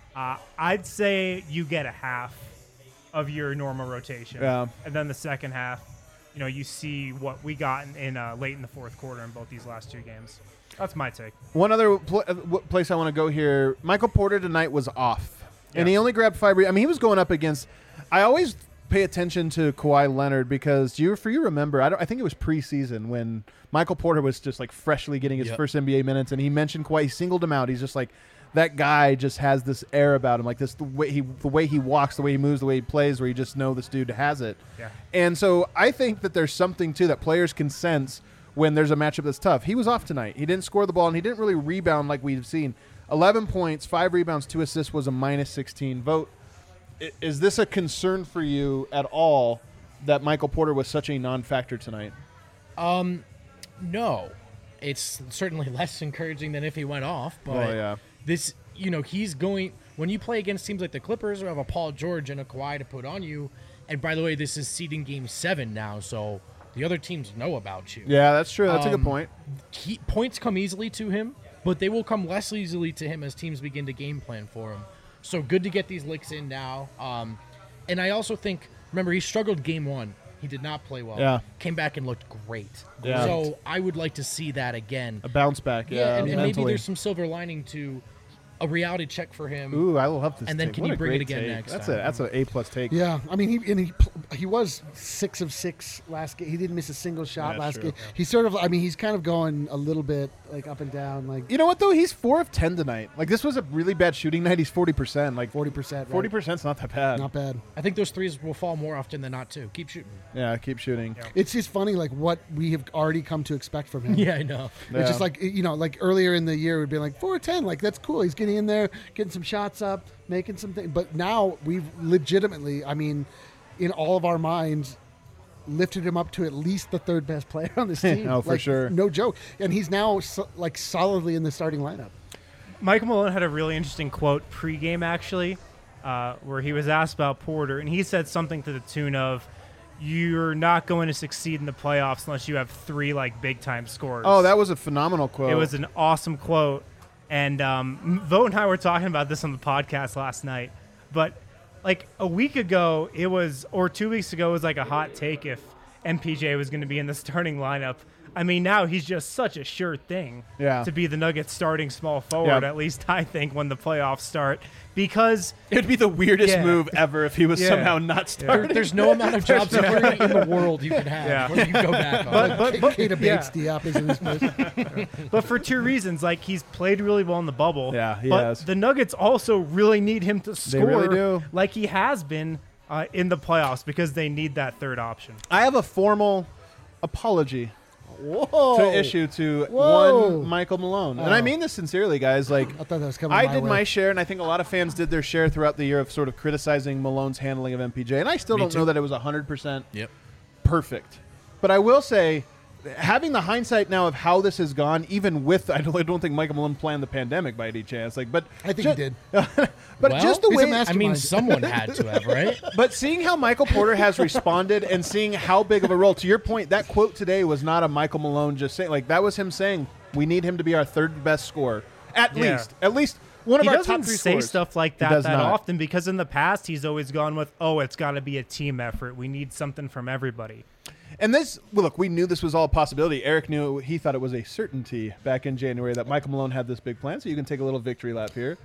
I'd say you get a half of your normal rotation. Yeah. And then the second half, you see what we got in late in the fourth quarter in both these last 2 games. That's my take. One other place I want to go here, Michael Porter tonight was off. And he only grabbed 5 rebounds. I mean, he was going up against – I always pay attention to Kawhi Leonard because you remember, I think it was preseason when Michael Porter was just like freshly getting his first NBA minutes, and he mentioned Kawhi. He singled him out. He's just like, that guy just has this air about him, like this the way he walks, the way he moves, the way he plays, where you just know this dude has it. Yeah. And so I think that there's something too that players can sense when there's a matchup that's tough. He was off tonight. He didn't score the ball, and he didn't really rebound like we've seen. 11 points, 5 rebounds, 2 assists was a -16 vote. Is this a concern for you at all that Michael Porter was such a non-factor tonight? No. It's certainly less encouraging than if he went off. But this, he's going – when you play against teams like the Clippers who have a Paul George and a Kawhi to put on you, and by the way, this is seeding Game 7 now, so The other teams know about you. Yeah, that's true. That's a good point. Points come easily to him, but they will come less easily to him as teams begin to game plan for him. So good to get these licks in now. And I also think, remember, he struggled game 1. He did not play well. Yeah. Came back and looked great. Yeah. So I would like to see that again. A bounce back, yeah. And maybe there's some silver lining to a reality check for him. Ooh, I love this. And then take. can What you a bring it great again take. next That's time? an A+ take. Yeah, I mean, he was 6 of 6 last game. He didn't miss a single shot last game. He's sort of, I mean, he's kind of going a little bit like up and down. Like, you know what though? He's 4 of 10 tonight. Like, this was a really bad shooting night. He's 40%. Like 40%. 40%'s not that bad. Not bad. I think those threes will fall more often than not too. Keep shooting. Yeah, keep shooting. Yeah. It's just funny, like what we have already come to expect from him. Yeah, I know. It's just like, you know, like earlier in the year, we'd be like 4 of 10. Like, that's cool. He's getting in there, getting some shots up, making some things. But now we've legitimately, I mean, in all of our minds, lifted him up to at least the 3rd best player on this team. Oh, for sure. No joke. And he's now like solidly in the starting lineup. Michael Malone had a really interesting quote pregame, actually, where he was asked about Porter, and he said something to the tune of, "You're not going to succeed in the playoffs unless you have 3 like big time scorers." Oh, that was a phenomenal quote. It was an awesome quote, and Vogt and I were talking about this on the podcast last night. But like a week ago, or 2 weeks ago, it was like a hot take if MPJ was going to be in the starting lineup. I mean, now he's just such a sure thing to be the Nuggets starting small forward, at least I think, when the playoffs start. Because it would be the weirdest move ever if he was somehow not starting. There's no amount of job security in the world you can have where you go back on. But Keita Bates Diop is in this place. But for 2 reasons. Like, he's played really well in the bubble. Yeah, he but has. The Nuggets also really need him to score really do. like he has been in the playoffs because they need that 3rd option. I have a formal apology Whoa. to issue to one Michael Malone. And I mean this sincerely, guys. Like, I thought that was coming I my did way. my share, and I think a lot of fans did their share throughout the year of sort of criticizing Malone's handling of MPJ. And I still don't know that it was 100% perfect. But I will say, having the hindsight now of how this has gone, even with, I don't think Michael Malone planned the pandemic by any chance. Like, but I think he did. But Well, just the he's a way, mastermind. I mean, someone had to have, right? but seeing how Michael Porter has responded and seeing how big of a role, to your point, that quote today was not a Michael Malone just saying, like, that was him saying, we need him to be our 3rd best scorer. At least one of He our doesn't top 3 say scorers. stuff like He that does that not. often because in the past he's always gone with, it's got to be a team effort. We need something from everybody. And this, well, look, we knew this was all a possibility. Eric knew he thought it was a certainty back in January that Michael Malone had this big plan. So you can take a little victory lap here.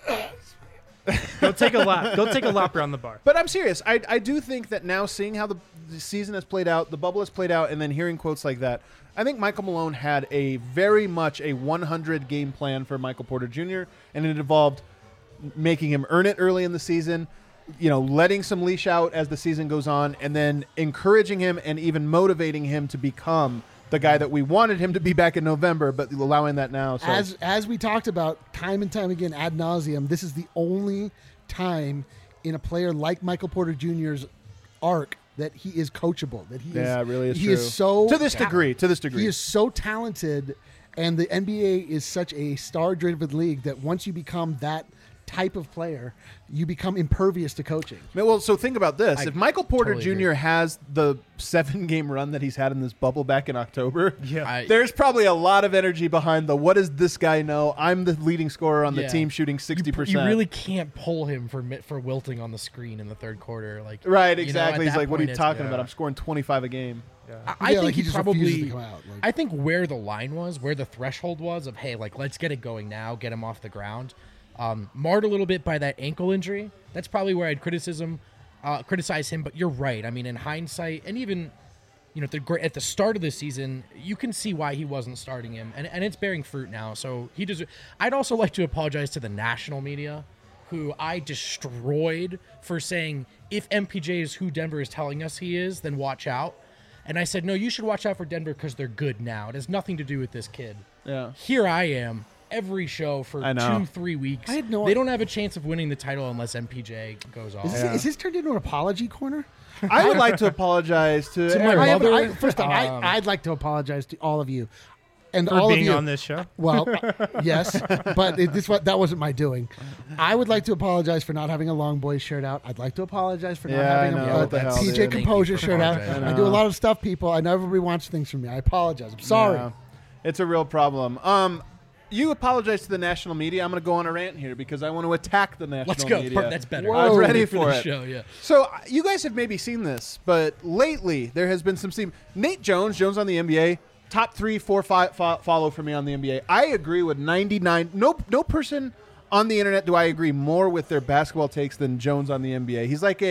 Go take a lap. Go take a lap around the bar. But I'm serious. I do think that now, seeing how the season has played out, the bubble has played out, and then hearing quotes like that, I think Michael Malone had a very much a 100 game plan for Michael Porter Jr., and it involved making him earn it early in the season, you know, letting some leash out as the season goes on, and then encouraging him and even motivating him to become the guy that we wanted him to be back in November, but allowing that now. So. As we talked about time and time again ad nauseum, this is the only time in a player like Michael Porter Jr.'s arc that he is coachable. That he is, it really is he true. is so to this degree. He is so talented, and the NBA is such a star-driven league that once you become that type of player, you become impervious to coaching. Well, so think about this. I if Michael Porter totally Jr. agree. has the 7-game run that he's had in this bubble back in October, Yeah. there's probably a lot of energy behind the, what does this guy know? I'm the leading scorer on the Yeah. team shooting 60%. You really can't pull him for wilting on the screen in the 3rd quarter. Like, Right, you know, exactly. at He's that like, what are point, you it's- talking about? I'm scoring 25 a game. I Yeah, think like he he just refuses probably. to come out, like- I think where the line was, where the threshold was of, hey, like, let's get it going now, get him off the ground. Marred a little bit by that ankle injury. That's probably where I'd criticize him. But you're right. I mean, in hindsight, and even at the start of the season, you can see why he wasn't starting him, and it's bearing fruit now. So he does. I'd also like to apologize to the national media, who I destroyed for saying, if MPJ is who Denver is telling us he is, then watch out. And I said, no, you should watch out for Denver because they're good now. It has nothing to do with this kid. Yeah. Here I am, every show for I know. 2-3 weeks. I had no they don't have a chance of winning the title unless MPJ goes off. Is this turned into an apology corner? I would like to apologize to my Eric. mother. First off, I'd like to apologize to all of you. and For all being of you on this show. Well, yes, but that wasn't my doing. I would like to apologize for not having a Long Boys shirt out. I'd like to apologize for not having a TJ Composure shirt out. I do a lot of stuff, people. I know everybody wants things from me. I apologize. I'm sorry. Yeah. It's a real problem. You apologize to the national media. I'm going to go on a rant here because I want to attack the national media. Let's go. That's better. I was ready for it. Show, yeah. So you guys have maybe seen this, but lately there has been some steam. Nate Jones on the NBA, top 3, 4, 5 follow for me on the NBA. I agree with 99. No person on the internet do I agree more with their basketball takes than Jones on the NBA. He's like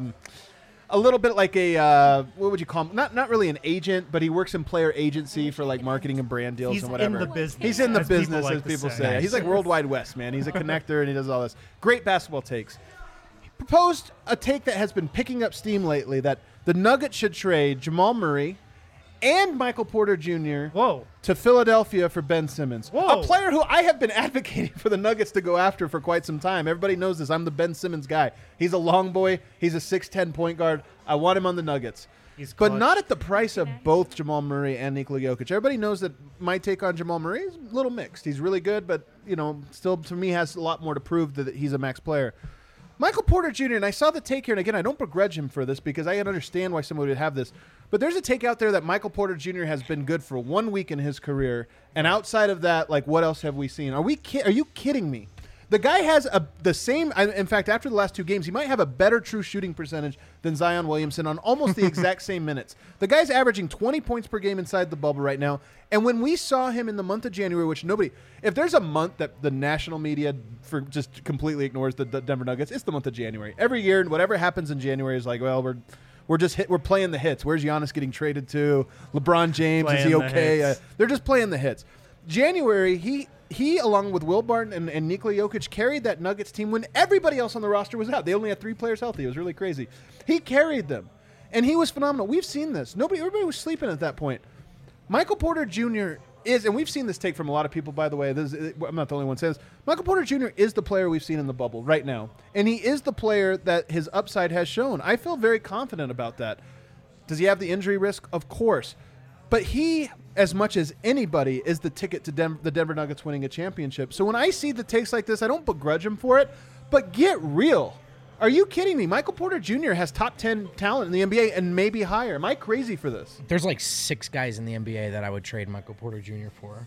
a little bit like what would you call him? Not really an agent, but he works in player agency for like marketing and brand deals and whatever. He's in the business. He's in the business, as people people say. say. He's like World Wide West, man. He's a connector and he does all this. Great basketball takes. He proposed a take that has been picking up steam lately that the Nuggets should trade Jamal Murray and Michael Porter Jr. to Philadelphia for Ben Simmons. A player who I have been advocating for the Nuggets to go after for quite some time. Everybody knows this. I'm the Ben Simmons guy. He's a long boy. He's a 6'10 point guard. I want him on the Nuggets. But not at the price of both Jamal Murray and Nikola Jokic. Everybody knows that my take on Jamal Murray is a little mixed. He's really good, but still to me has a lot more to prove that he's a max player. Michael Porter Jr., and I saw the take here, and again, I don't begrudge him for this because I understand why somebody would have this. But there's a take out there that Michael Porter Jr. has been good for 1 week in his career, and outside of that, like, what else have we seen? Are you kidding me? The guy has the same. In fact, after the last 2 games, he might have a better true shooting percentage than Zion Williamson on almost the exact same minutes. The guy's averaging 20 points per game inside the bubble right now. And when we saw him in the month of January, which if there's a month that the national media just completely ignores the Denver Nuggets, it's the month of January. Every year, whatever happens in January is like, well, we're playing the hits. Where's Giannis getting traded to? LeBron James, is he okay? They're just playing the hits. January, he along with Will Barton and Nikola Jokic carried that Nuggets team when everybody else on the roster was out. They only had 3 players healthy. It was really crazy. He carried them, and he was phenomenal. We've seen this. Everybody was sleeping at that point. Michael Porter Jr. is, and we've seen this take from a lot of people, by the way. I'm not the only one saying this. Michael Porter Jr. is the player we've seen in the bubble right now, and he is the player that his upside has shown. I feel very confident about that. Does he have the injury risk? Of course. But he, as much as anybody, is the ticket to the Denver Nuggets winning a championship. So when I see the takes like this, I don't begrudge him for it, but get real. Are you kidding me? Michael Porter Jr. has top 10 talent in the NBA and maybe higher. Am I crazy for this? There's like 6 guys in the NBA that I would trade Michael Porter Jr. for.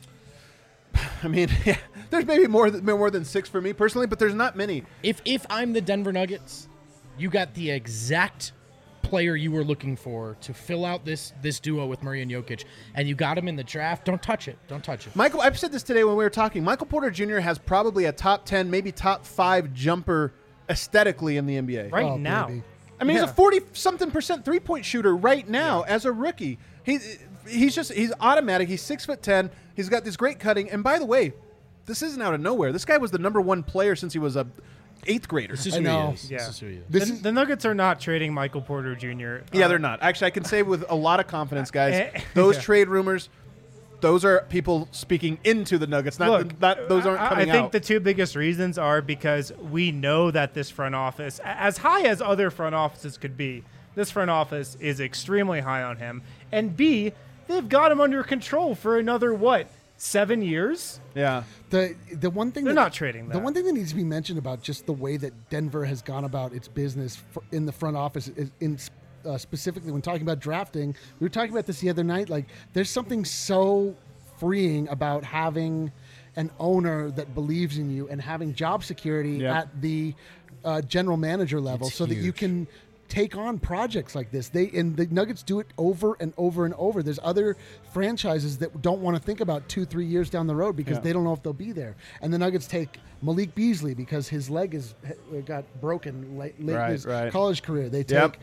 I mean, yeah, there's maybe more than 6 for me personally, but there's not many. If I'm the Denver Nuggets, you got the exact player you were looking for to fill out this duo with Murray and Jokic, and you got him in the draft. Don't touch it. Michael, I've said this today when we were talking. Michael Porter Jr. has probably a top 10, maybe top 5 jumper aesthetically in the NBA right now. Baby. I mean, he's a 40-something% 3-point shooter right now as a rookie. He's automatic. He's 6'10". He's got this great cutting. And by the way, this isn't out of nowhere. This guy was the number 1 player since he was a 8th grader. This is who he is. Yeah. This is who he is. The Nuggets are not trading Michael Porter Jr. Yeah, they're not. Actually, I can say with a lot of confidence, guys, those trade rumors, those are people speaking into the Nuggets. Those aren't coming out. I think the 2 biggest reasons are because we know that this front office, as high as other front offices could be, this front office is extremely high on him. And B, they've got him under control for another, 7 years? Yeah. The one thing they're not trading that. The one thing that needs to be mentioned about just the way that Denver has gone about its business in the front office is specifically when talking about drafting. We were talking about this the other night. Like, there's something so freeing about having an owner that believes in you and having job security at the general manager level, so that you can take on projects like this. The Nuggets do it over and over and over. There's other franchises that don't want to think about 2-3 years down the road because they don't know if they'll be there. And the Nuggets take Malik Beasley because his leg got broken late in his college career. They take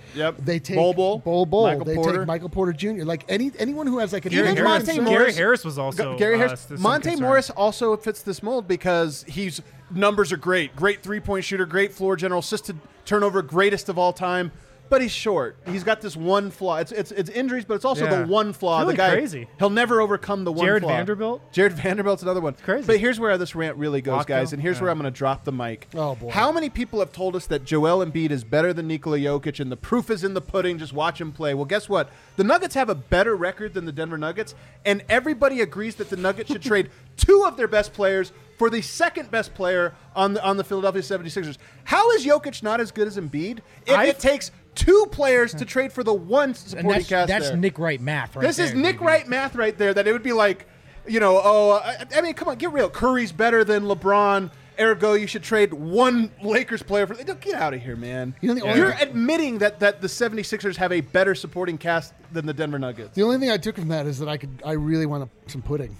Bol. They take Michael Porter Jr. Like anyone who has like an Gary Harris was also Gary Harris. Monte Morris also fits this mold because he's numbers are great 3-point shooter, great floor general, assisted turnover, greatest of all time. but he's short. He's got this one flaw. It's injuries, but it's also the one flaw. It's really the guy, crazy. He'll never overcome the one Jared flaw. Jared Vanderbilt's another one. It's crazy. But here's where this rant really goes, guys, and here's where I'm going to drop the mic. Oh, boy. How many people have told us that Joel Embiid is better than Nikola Jokic, and the proof is in the pudding, just watch him play? Well, guess what? The Nuggets have a better record than the Denver Nuggets, and everybody agrees that the Nuggets should trade 2 of their best players for the second best player on the Philadelphia 76ers. How is Jokic not as good as Embiid if it takes 2 players to trade for the one supporting cast That's there? Nick Wright math right This there. is Nick baby. Wright math right there, that it would be like, I mean, come on, get real. Curry's better than LeBron. Ergo, you should trade 1 Lakers player for. Get out of here, man. You're admitting that the 76ers have a better supporting cast than the Denver Nuggets. The only thing I took from that is that I really want some pudding.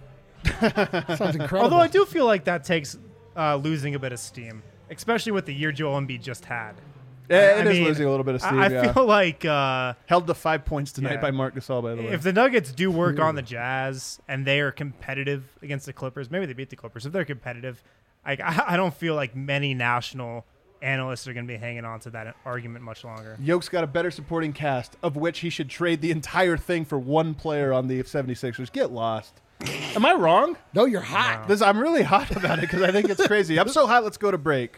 Sounds incredible. Although I do feel like that takes losing a bit of steam, especially with the year Joel Embiid just had. Yeah, it is losing a little bit of steam. I feel like held to 5 points tonight by Marc Gasol. By the way, if the Nuggets do work on the Jazz and they are competitive against the Clippers, maybe they beat the Clippers. If they're competitive, I don't feel like many national analysts are going to be hanging on to that argument much longer. Yoke's got a better supporting cast, of which he should trade the entire thing for 1 player on the 76ers. Get lost. Am I wrong? No, you're hot. No. I'm really hot about it because I think it's crazy. I'm so hot, let's go to break.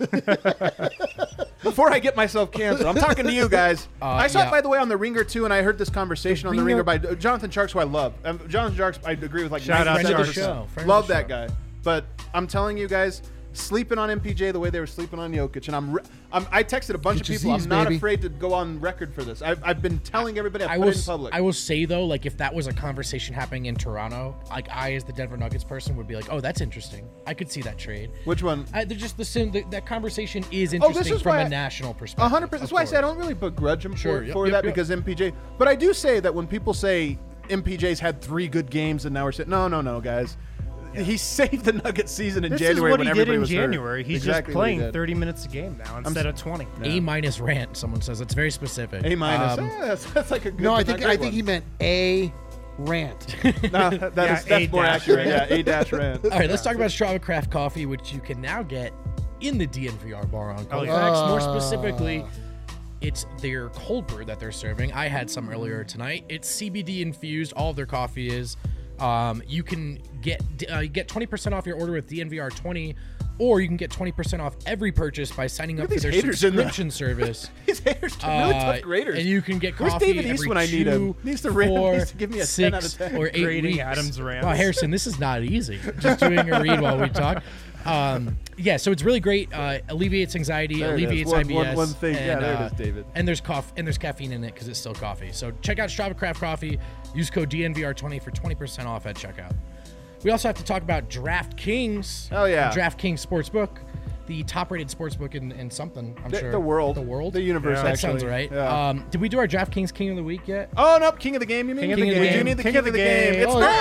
Before I get myself canceled, I'm talking to you guys. I saw it, by the way, on The Ringer, too, and I heard this conversation on The Ringer by Jonathan Sharks, who I love. Jonathan Sharks, I agree with, like, shout out to the show. Love that guy. But I'm telling you guys, sleeping on MPJ the way they were sleeping on Jokic, and I texted a bunch of people. I'm not afraid to go on record for this. I've been telling everybody. I put it in public. I will say though, like if that was a conversation happening in Toronto, like I as the Denver Nuggets person would be like, oh, that's interesting. I could see that trade. Which one? They're just that conversation is interesting from a national perspective. 100%. That's why I say I don't really begrudge him for that because MPJ. But I do say that when people say MPJ's had 3 good games and now we're saying no, guys. Yeah. He saved the Nuggets season in January when everybody was hurt. This is what he did in January. He's just playing 30 minutes a game now instead of 20. A- rant, someone says. It's very specific. A-. That's like a good. No, I think he meant A rant. That's more accurate. Yeah, A-rant. All right, let's talk about Strava Craft Coffee, which you can now get in the DNVR bar on Colfax. More specifically, it's their cold brew that they're serving. I had some earlier tonight. It's CBD infused. All of their coffee is. You can get 20% off your order with DNVR20, or you can get 20% off every purchase by signing up for their subscription service. These haters are really tough graders. And you can get Where's coffee David East every when I need him? Needs to give me a 10 out of 10. Or 8 Grading weeks. Adam's rants. Wow, Harrison, this is not easy. Just doing a read while we talk. So it's really great. Alleviates anxiety, alleviates IBS. One thing. And, there it is, David. And there's caffeine in it because it's still coffee. So check out Strava Craft Coffee. Use code DNVR20 for 20% off at checkout. We also have to talk about DraftKings. Oh, yeah. DraftKings Sportsbook. The top-rated sportsbook in something, I'm sure. The world. The universe, That actually. sounds right. Yeah. Did we do our DraftKings King of the Week yet? Oh, no. King of the Game, you mean? King of the Game. We do need the King of the Game. It's Nolan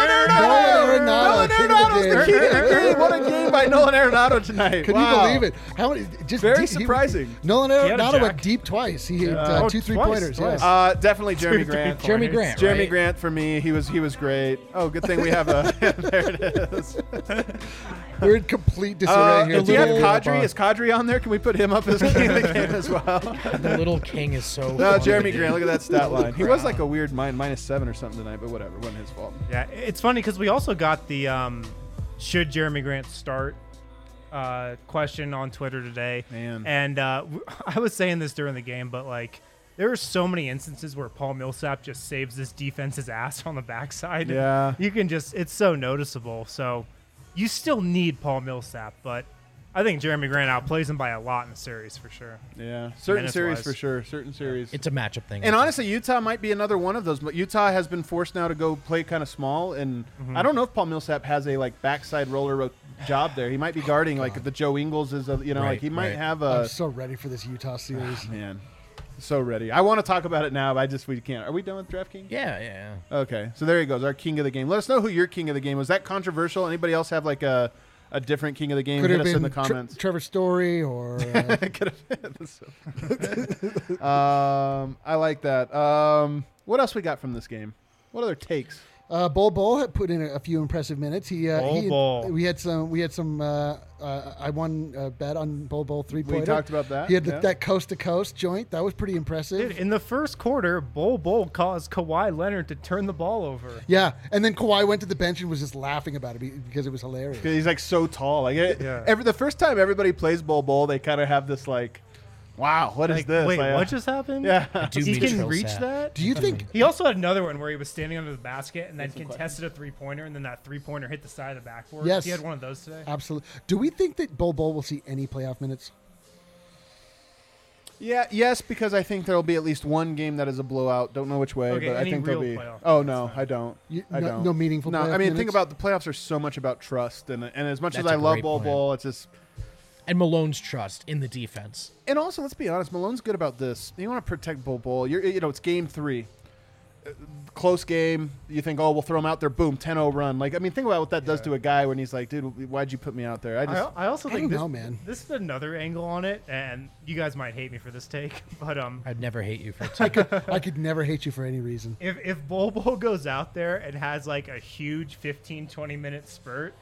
Arenado's the King of the Game. What a game by Nolan Arenado tonight. Can you believe it? How many? Just Very surprising. Nolan Arenado went deep twice. He hit 2 3-pointers. Twice. Definitely Jeremy Grant. Jeremy Grant. Jeremy right? Grant for me. He was great. Oh, good thing we have a. There it is. We're in complete disarray here. Do you have Kadri? Is Kadri on there? Can we put him up as King of the Game as well? The little king is so. No, funny. Jeremy Grant. Look at that stat line. He was like a weird -7 or something tonight, but whatever. It wasn't his fault. Yeah, it's funny because we also got the should Jeremy Grant start question on Twitter today. Man. And I was saying this during the game, but like there are so many instances where Paul Millsap just saves this defense's ass on the backside. Yeah. You can it's so noticeable. So you still need Paul Millsap, but I think Jeremy Grant outplays him by a lot in the series for sure. Yeah, certain series Minutes-wise. for sure. Certain series. It's a matchup thing. And honestly, Utah might be another one of those. But Utah has been forced now to go play kind of small, and I don't know if Paul Millsap has a like backside roller job there. He might be guarding like the Joe Ingles is, like he might have a. I'm so ready for this Utah series. Man, so ready. I want to talk about it now, but we can't. Are we done with DraftKings? Yeah. Okay, so there he goes, our King of the Game. Let us know who your King of the Game was. That controversial? Anybody else have like a different King of the Game? Could Hit have us been in the comments. Trevor Story or. Could have. I like that. What else we got from this game? What other takes? Bol had put in a few impressive minutes. We had some. I won a bet on Bol 3-pointer. We talked about that. He had that coast to coast joint. That was pretty impressive. Dude, in the first quarter, Bol caused Kawhi Leonard to turn the ball over. Yeah, and then Kawhi went to the bench and was just laughing about it because it was hilarious. He's like so tall. Like the first time everybody plays Bol, they kind of have this like, wow, what is this? Wait, like, what just happened? Yeah, he can reach that. Do you think he also had another one where he was standing under the basket and then contested a 3-pointer, and then that 3-pointer hit the side of the backboard? Yes, he had one of those today. Absolutely. Do we think that Bol will see any playoff minutes? Yeah, yes, because I think there will be at least one game that is a blowout. Don't know which way, but I think there'll be. Oh no, I don't. I don't. No meaningful. No, I mean, think about the playoffs are so much about trust, and as much as I love Bol, it's just. And Malone's trust in the defense. And also, let's be honest, Malone's good about this. You want to protect Bol. It's game 3. Close game. You think, we'll throw him out there. Boom, 10-0 run. Like, I mean, think about what that does to a guy when he's like, dude, why'd you put me out there? I also think this is another angle on it, and you guys might hate me for this take, but I'd never hate you for it. I could never hate you for any reason. If Bol goes out there and has like a huge 15-20 minute spurt,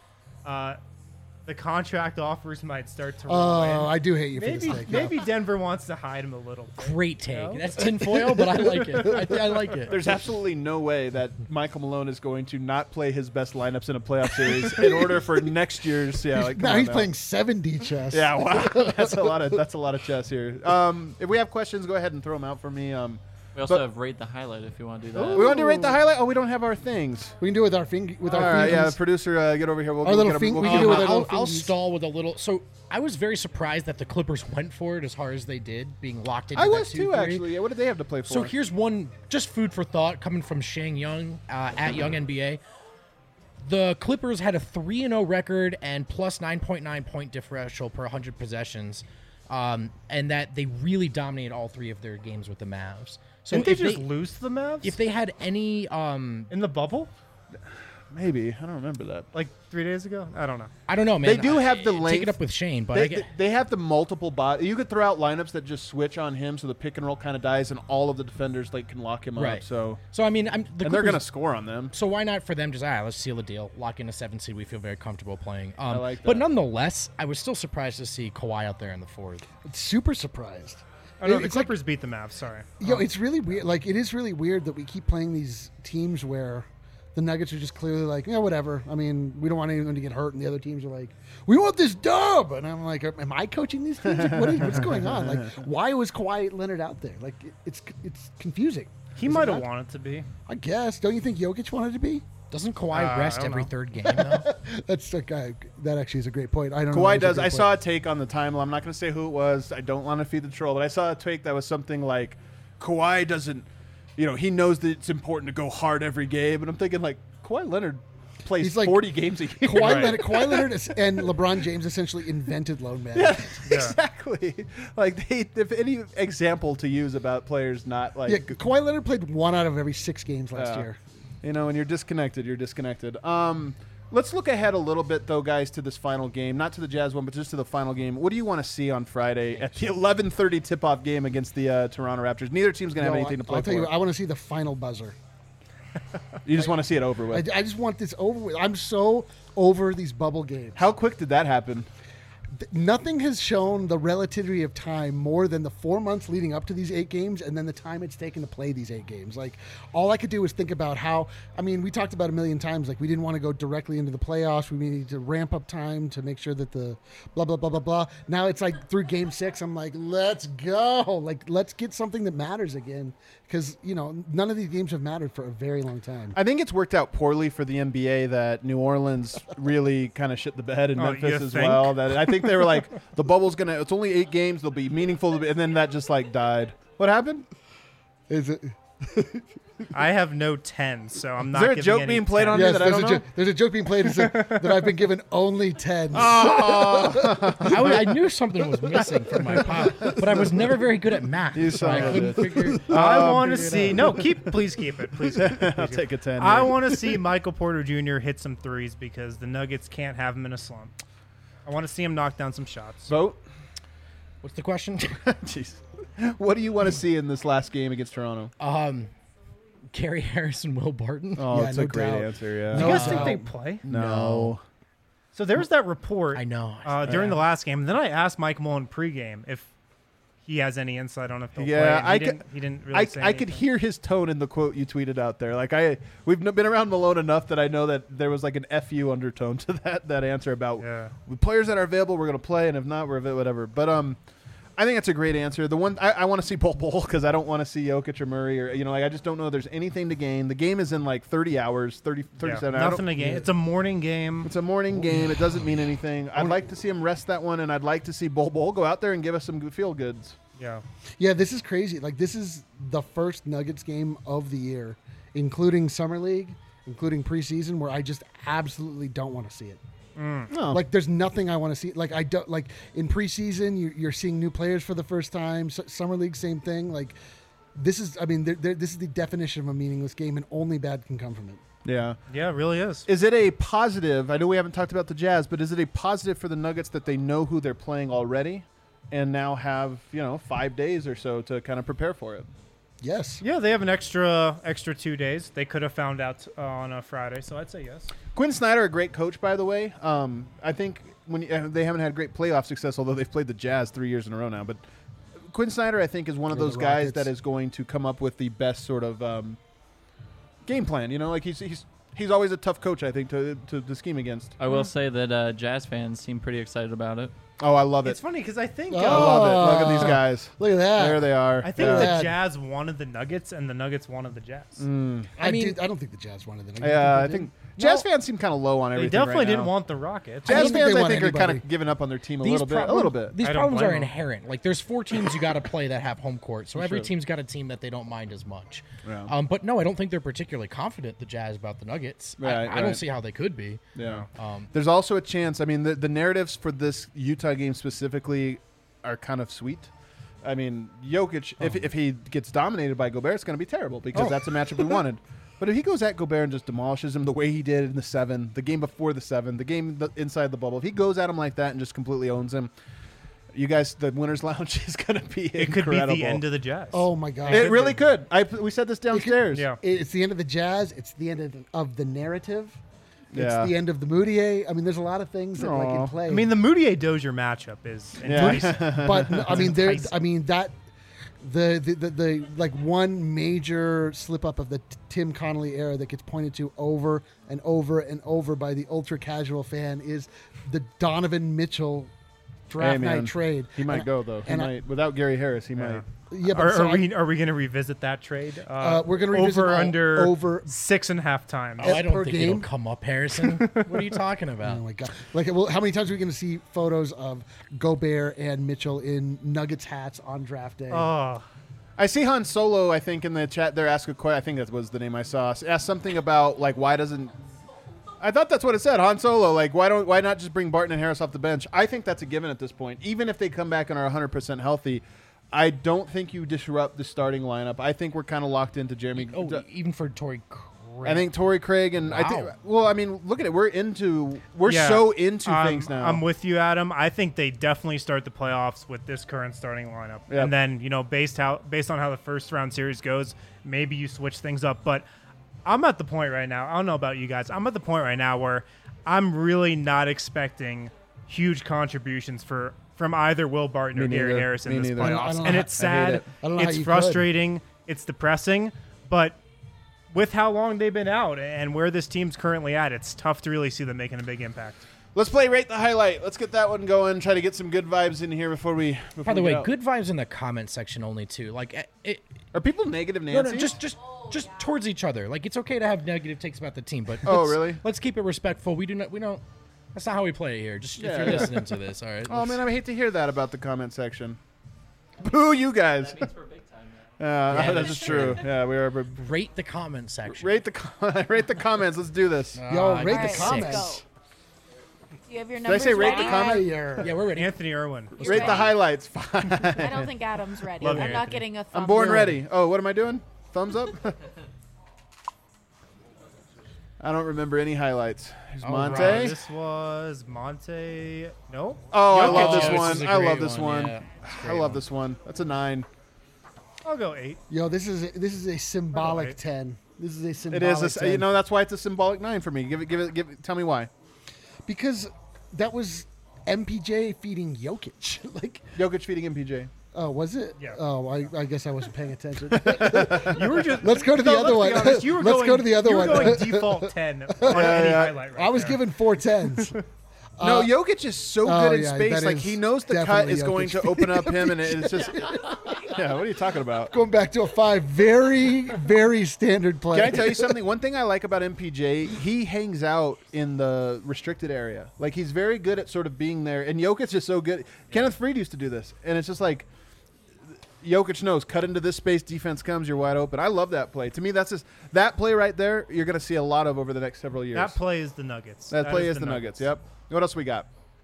the contract offers might start to roll in. I do hate you for this take. Maybe Denver wants to hide him a little bit. Great take. You know? That's tinfoil, but I like it. I like it. There's absolutely no way that Michael Malone is going to not play his best lineups in a playoff series in order for next year's. Yeah, now he's playing 7D chess. Yeah, wow, that's a lot of chess here. If we have questions, go ahead and throw them out for me. We also have rate the highlight if you want to do that. We want to rate the highlight. Oh, we don't have our things. We can do it with our finger. With our fingers. Yeah, producer, get over here. We can do it with our little I'll stall with a little. So I was very surprised that the Clippers went for it as hard as they did, being locked into. I was too, actually. Yeah, what did they have to play for? So here's one, just food for thought, coming from Shang Young at Young NBA. The Clippers had a 3-0 record and plus 9.9 point differential per 100 possessions, and that they really dominated all 3 of their games with the Mavs. So didn't they just lose to the Mavs? If they had any in the bubble, maybe I don't remember that. Like 3 days ago, I don't know, man. They do have the length. Take it up with Shane, but they have the multiple bodies. You could throw out lineups that just switch on him, so the pick and roll kind of dies, and all of the defenders can lock him up. So I mean, they're going to score on them. So why not for them just let's seal a deal, lock in a 7 seed. We feel very comfortable playing. I like that. But nonetheless, I was still surprised to see Kawhi out there in the 4th. Super surprised. Oh, no, the Clippers beat the Mavs. Sorry. It's really weird. Like, it is really weird that we keep playing these teams where the Nuggets are just clearly like, whatever. I mean, we don't want anyone to get hurt, and the other teams are like, we want this dub. And I'm like, am I coaching these teams? Like, what's going on? Like, why was Kawhi Leonard out there? Like, it's confusing. He might have wanted to be. I guess. Don't you think Jokic wanted to be? Doesn't Kawhi rest every third game, though? That's a guy. That actually is a great point. I don't know. Kawhi does. I saw a take on the timeline. I'm not going to say who it was. I don't want to feed the troll, but I saw a take that was something like, Kawhi doesn't, he knows that it's important to go hard every game. And I'm thinking, like, Kawhi Leonard plays 40 games a year. Kawhi Leonard and LeBron James essentially invented load management. Yeah, exactly. Like, if any example to use about players not like. Yeah, Kawhi Leonard played 1 out of every 6 games last year. When you're disconnected, you're disconnected. Let's look ahead a little bit, though, guys, to this final game. Not to the Jazz one, but just to the final game. What do you want to see on Friday at the 11:30 tip-off game against the Toronto Raptors? Neither team's going to have anything to play for. I'll tell you, I want to see the final buzzer. You just want to see it over with. I just want this over with. I'm so over these bubble games. How quick did that happen? Nothing has shown the relativity of time more than the 4 months leading up to these 8 games and then the time it's taken to play these 8 games. Like, all I could do was think about how, we talked about a million times, like, we didn't want to go directly into the playoffs. We needed to ramp up time to make sure that the blah, blah, blah, blah, blah. Now it's like through game 6, I'm like, let's go. Like, let's get something that matters again. Because, none of these games have mattered for a very long time. I think it's worked out poorly for the NBA that New Orleans really kind of shit the bed in Memphis as well. That I think they were like, the bubble's going to – it's only 8 games. They'll be meaningful. And then that just, died. What happened? Is it – I have no 10, so I'm not. Is there a joke being played on me that I don't know? There's a joke being played that I've been given only 10s. I knew something was missing from my pile, but I was never very good at math. I couldn't figure. I want to see. No, please keep it. Please. I'll take a 10. I want to see Michael Porter Jr. hit some threes because the Nuggets can't have him in a slump. I want to see him knock down some shots. Vote. What's the question? Jeez. What do you want to see in this last game against Toronto? Gary Harris and Will Barton. Oh, Yeah, it's no a great doubt. answer. Yeah. Do you guys think doubt. they play? No. So there was that report. I know. During the last game. And then I asked Mike Mullen pregame if he has any insight on if they'll Yeah, play. He didn't really say I could anything. hear his tone in the quote you tweeted out there. Like we've been around Malone enough that I know that there was like an FU undertone to that answer about with players that are available, we're going to play, and if not, we're whatever. But I think that's a great answer. The one I want to see Bol because I don't want to see Jokic or Murray or like I just don't know there's anything to gain. The game is in like 30 hours, 37 hours. Nothing to gain. It's a morning game. It's a morning game. It doesn't mean anything. I'd like to see him rest that one, and I'd like to see Bol go out there and give us some good feel goods. Yeah. Yeah, this is crazy. Like, this is the first Nuggets game of the year, including Summer League, including preseason, where I just absolutely don't want to see it. No. Like, there's nothing I want to see. Like, I don't like in preseason, you're seeing new players for the first time. Summer League, same thing. Like, this is, I mean, this is the definition of a meaningless game, and only bad can come from it. Yeah. Yeah, it really is. Is it a positive? I know we haven't talked about the Jazz, but is it a positive for the Nuggets that they know who they're playing already and now have, 5 days or so to kind of prepare for it? Yes. Yeah, they have an extra 2 days. They could have found out on a Friday, so I'd say yes. Quinn Snyder, a great coach, by the way. I think when they haven't had great playoff success, although they've played the Jazz 3 years in a row now. But Quinn Snyder, I think, is one of those guys that is going to come up with the best sort of game plan. Like he's always a tough coach, I think, to scheme against. I will say that Jazz fans seem pretty excited about it. Oh, I love it. It's funny because I think I love it. Look at these guys. Look at that. There they are. I think the Jazz wanted the Nuggets and the Nuggets wanted the Jazz. I don't think the Jazz wanted the Nuggets. Yeah, I think Jazz fans seem kind of low on everything. They definitely right didn't now. want the Rockets. Jazz fans, I want think, are kind anybody. of giving up on their team a These little bit. These I don't problems blame are them. inherent. Like, there's 4 teams you got to play that have home court, so every Sure. team's got a team that they don't mind as much. Yeah. But no, I don't think they're particularly confident, the Jazz, about the Nuggets. I don't see how they could be. Yeah. There's also a chance. I mean, the narratives for this Utah game specifically are kind of sweet. I mean, Jokic, if he gets dominated by Gobert, it's going to be terrible because that's a matchup we wanted. But if he goes at Gobert and just demolishes him the way he did in the 7, the game before the 7, the game inside the bubble, if he goes at him like that and just completely owns him, you guys, the Winners Lounge is going to be It incredible. could be the end of the Jazz. Oh my God! It really could. We said this downstairs. Yeah. It's the end of the Jazz. It's the end of the narrative. It's Yeah. the end of the Moutier. I mean, there's a lot of things that like in play. I mean, the Moutier-Dozier matchup is enticing. but I mean, there's. I mean that the like one major slip up of the Tim Connolly era that gets pointed to over and over and over by the ultra casual fan is the Donovan Mitchell draft night trade. He might go though. He might without Gary Harris. He might. Yeah, but Are we going to revisit that trade? We're going to revisit over under over 6.5 times. Oh, I don't per think game? it'll come up, Harrison. What are you talking about? Oh my God! Like, well, how many times are we going to see photos of Gobert and Mitchell in Nuggets hats on draft day? Oh, I see Han Solo, I think, in the chat there ask a question. I think that was the name I saw. Ask something about, like, why doesn't... I thought that's what it said, Han Solo. Like, why not just bring Barton and Harris off the bench? I think that's a given at this point. Even if they come back and are 100% healthy, I don't think you disrupt the starting lineup. I think we're kind of locked into Jeremy... even for Torrey Craig. I think Torrey Craig and I think. Wow. Well, I mean, look at it. We're so into things now. I'm with you, Adam. I think they definitely start the playoffs with this current starting lineup, Yep. and then based on how the first round series goes, maybe you switch things up. But I'm at the point right now. I don't know about you guys. I'm at the point right now where I'm really not expecting huge contributions from either Will Barton or Gary Harris in this playoffs, and it's sad. It's frustrating. It's depressing, but with how long they've been out and where this team's currently at, it's tough to really see them making a big impact. Let's play Rate the Highlight. Let's get that one going. Try to get some good vibes in here before we. By the way, good vibes in the comment section only too. Like, are people negative No, Nancy? just towards each other. Like, it's okay to have negative takes about the team, but really? Let's keep it respectful. We don't. That's not how we play it here. Just if you're listening to this, all right. Oh man, I hate to hear that about the comment section. Boo, you guys. That means we're big time now. Yeah, that's true. Yeah, we are. Rate the comment section. Rate the comments. Let's do this. Yo, rate the Alright, comments. let's go. Do you have your Did I numbers say rate ready? the comment? Yeah, we're ready. Anthony Irwin. You Rate the ready? highlights. Fine. I don't think Adam's ready. Love you, I'm not Anthony. getting a thumb. I'm born up. ready. Oh, what am I doing? Thumbs up? I don't remember any highlights. Here's Monte. right. This was Monte. No. Oh, I Jokic. love this Oh, this one. is a I love great this one, one. yeah. I love this one. That's a 9. I'll go 8. Yo, this is a symbolic 10. This is a symbolic. It is. 10. That's why it's a symbolic 9 for me. Give it. Tell me why. Because that was MPJ feeding Jokic. Like Jokic feeding MPJ. Oh, was it? Yeah. Oh, I guess I wasn't paying attention. You were just. Let's go to the other one. Honest, you were Let's going, go to the other you were one. going default 10 on any highlight right I was there. given 4 10s. No, Jokic is so good in space. Like he knows the cut definitely is going Jokic. to open up him, and it's just. Yeah, what are you talking about? Going back to a 5, very, very standard play. Can I tell you something? One thing I like about MPJ, he hangs out in the restricted area. Like he's very good at sort of being there, and Jokic is so good. Kenneth Faried used to do this, and it's just like Jokic knows, cut into this space, defense comes, you're wide open. I love that play. To me, that's just that play right there. You're going to see a lot of over the next several years. That play is the Nuggets. That play is the Nuggets. Yep. What else we got?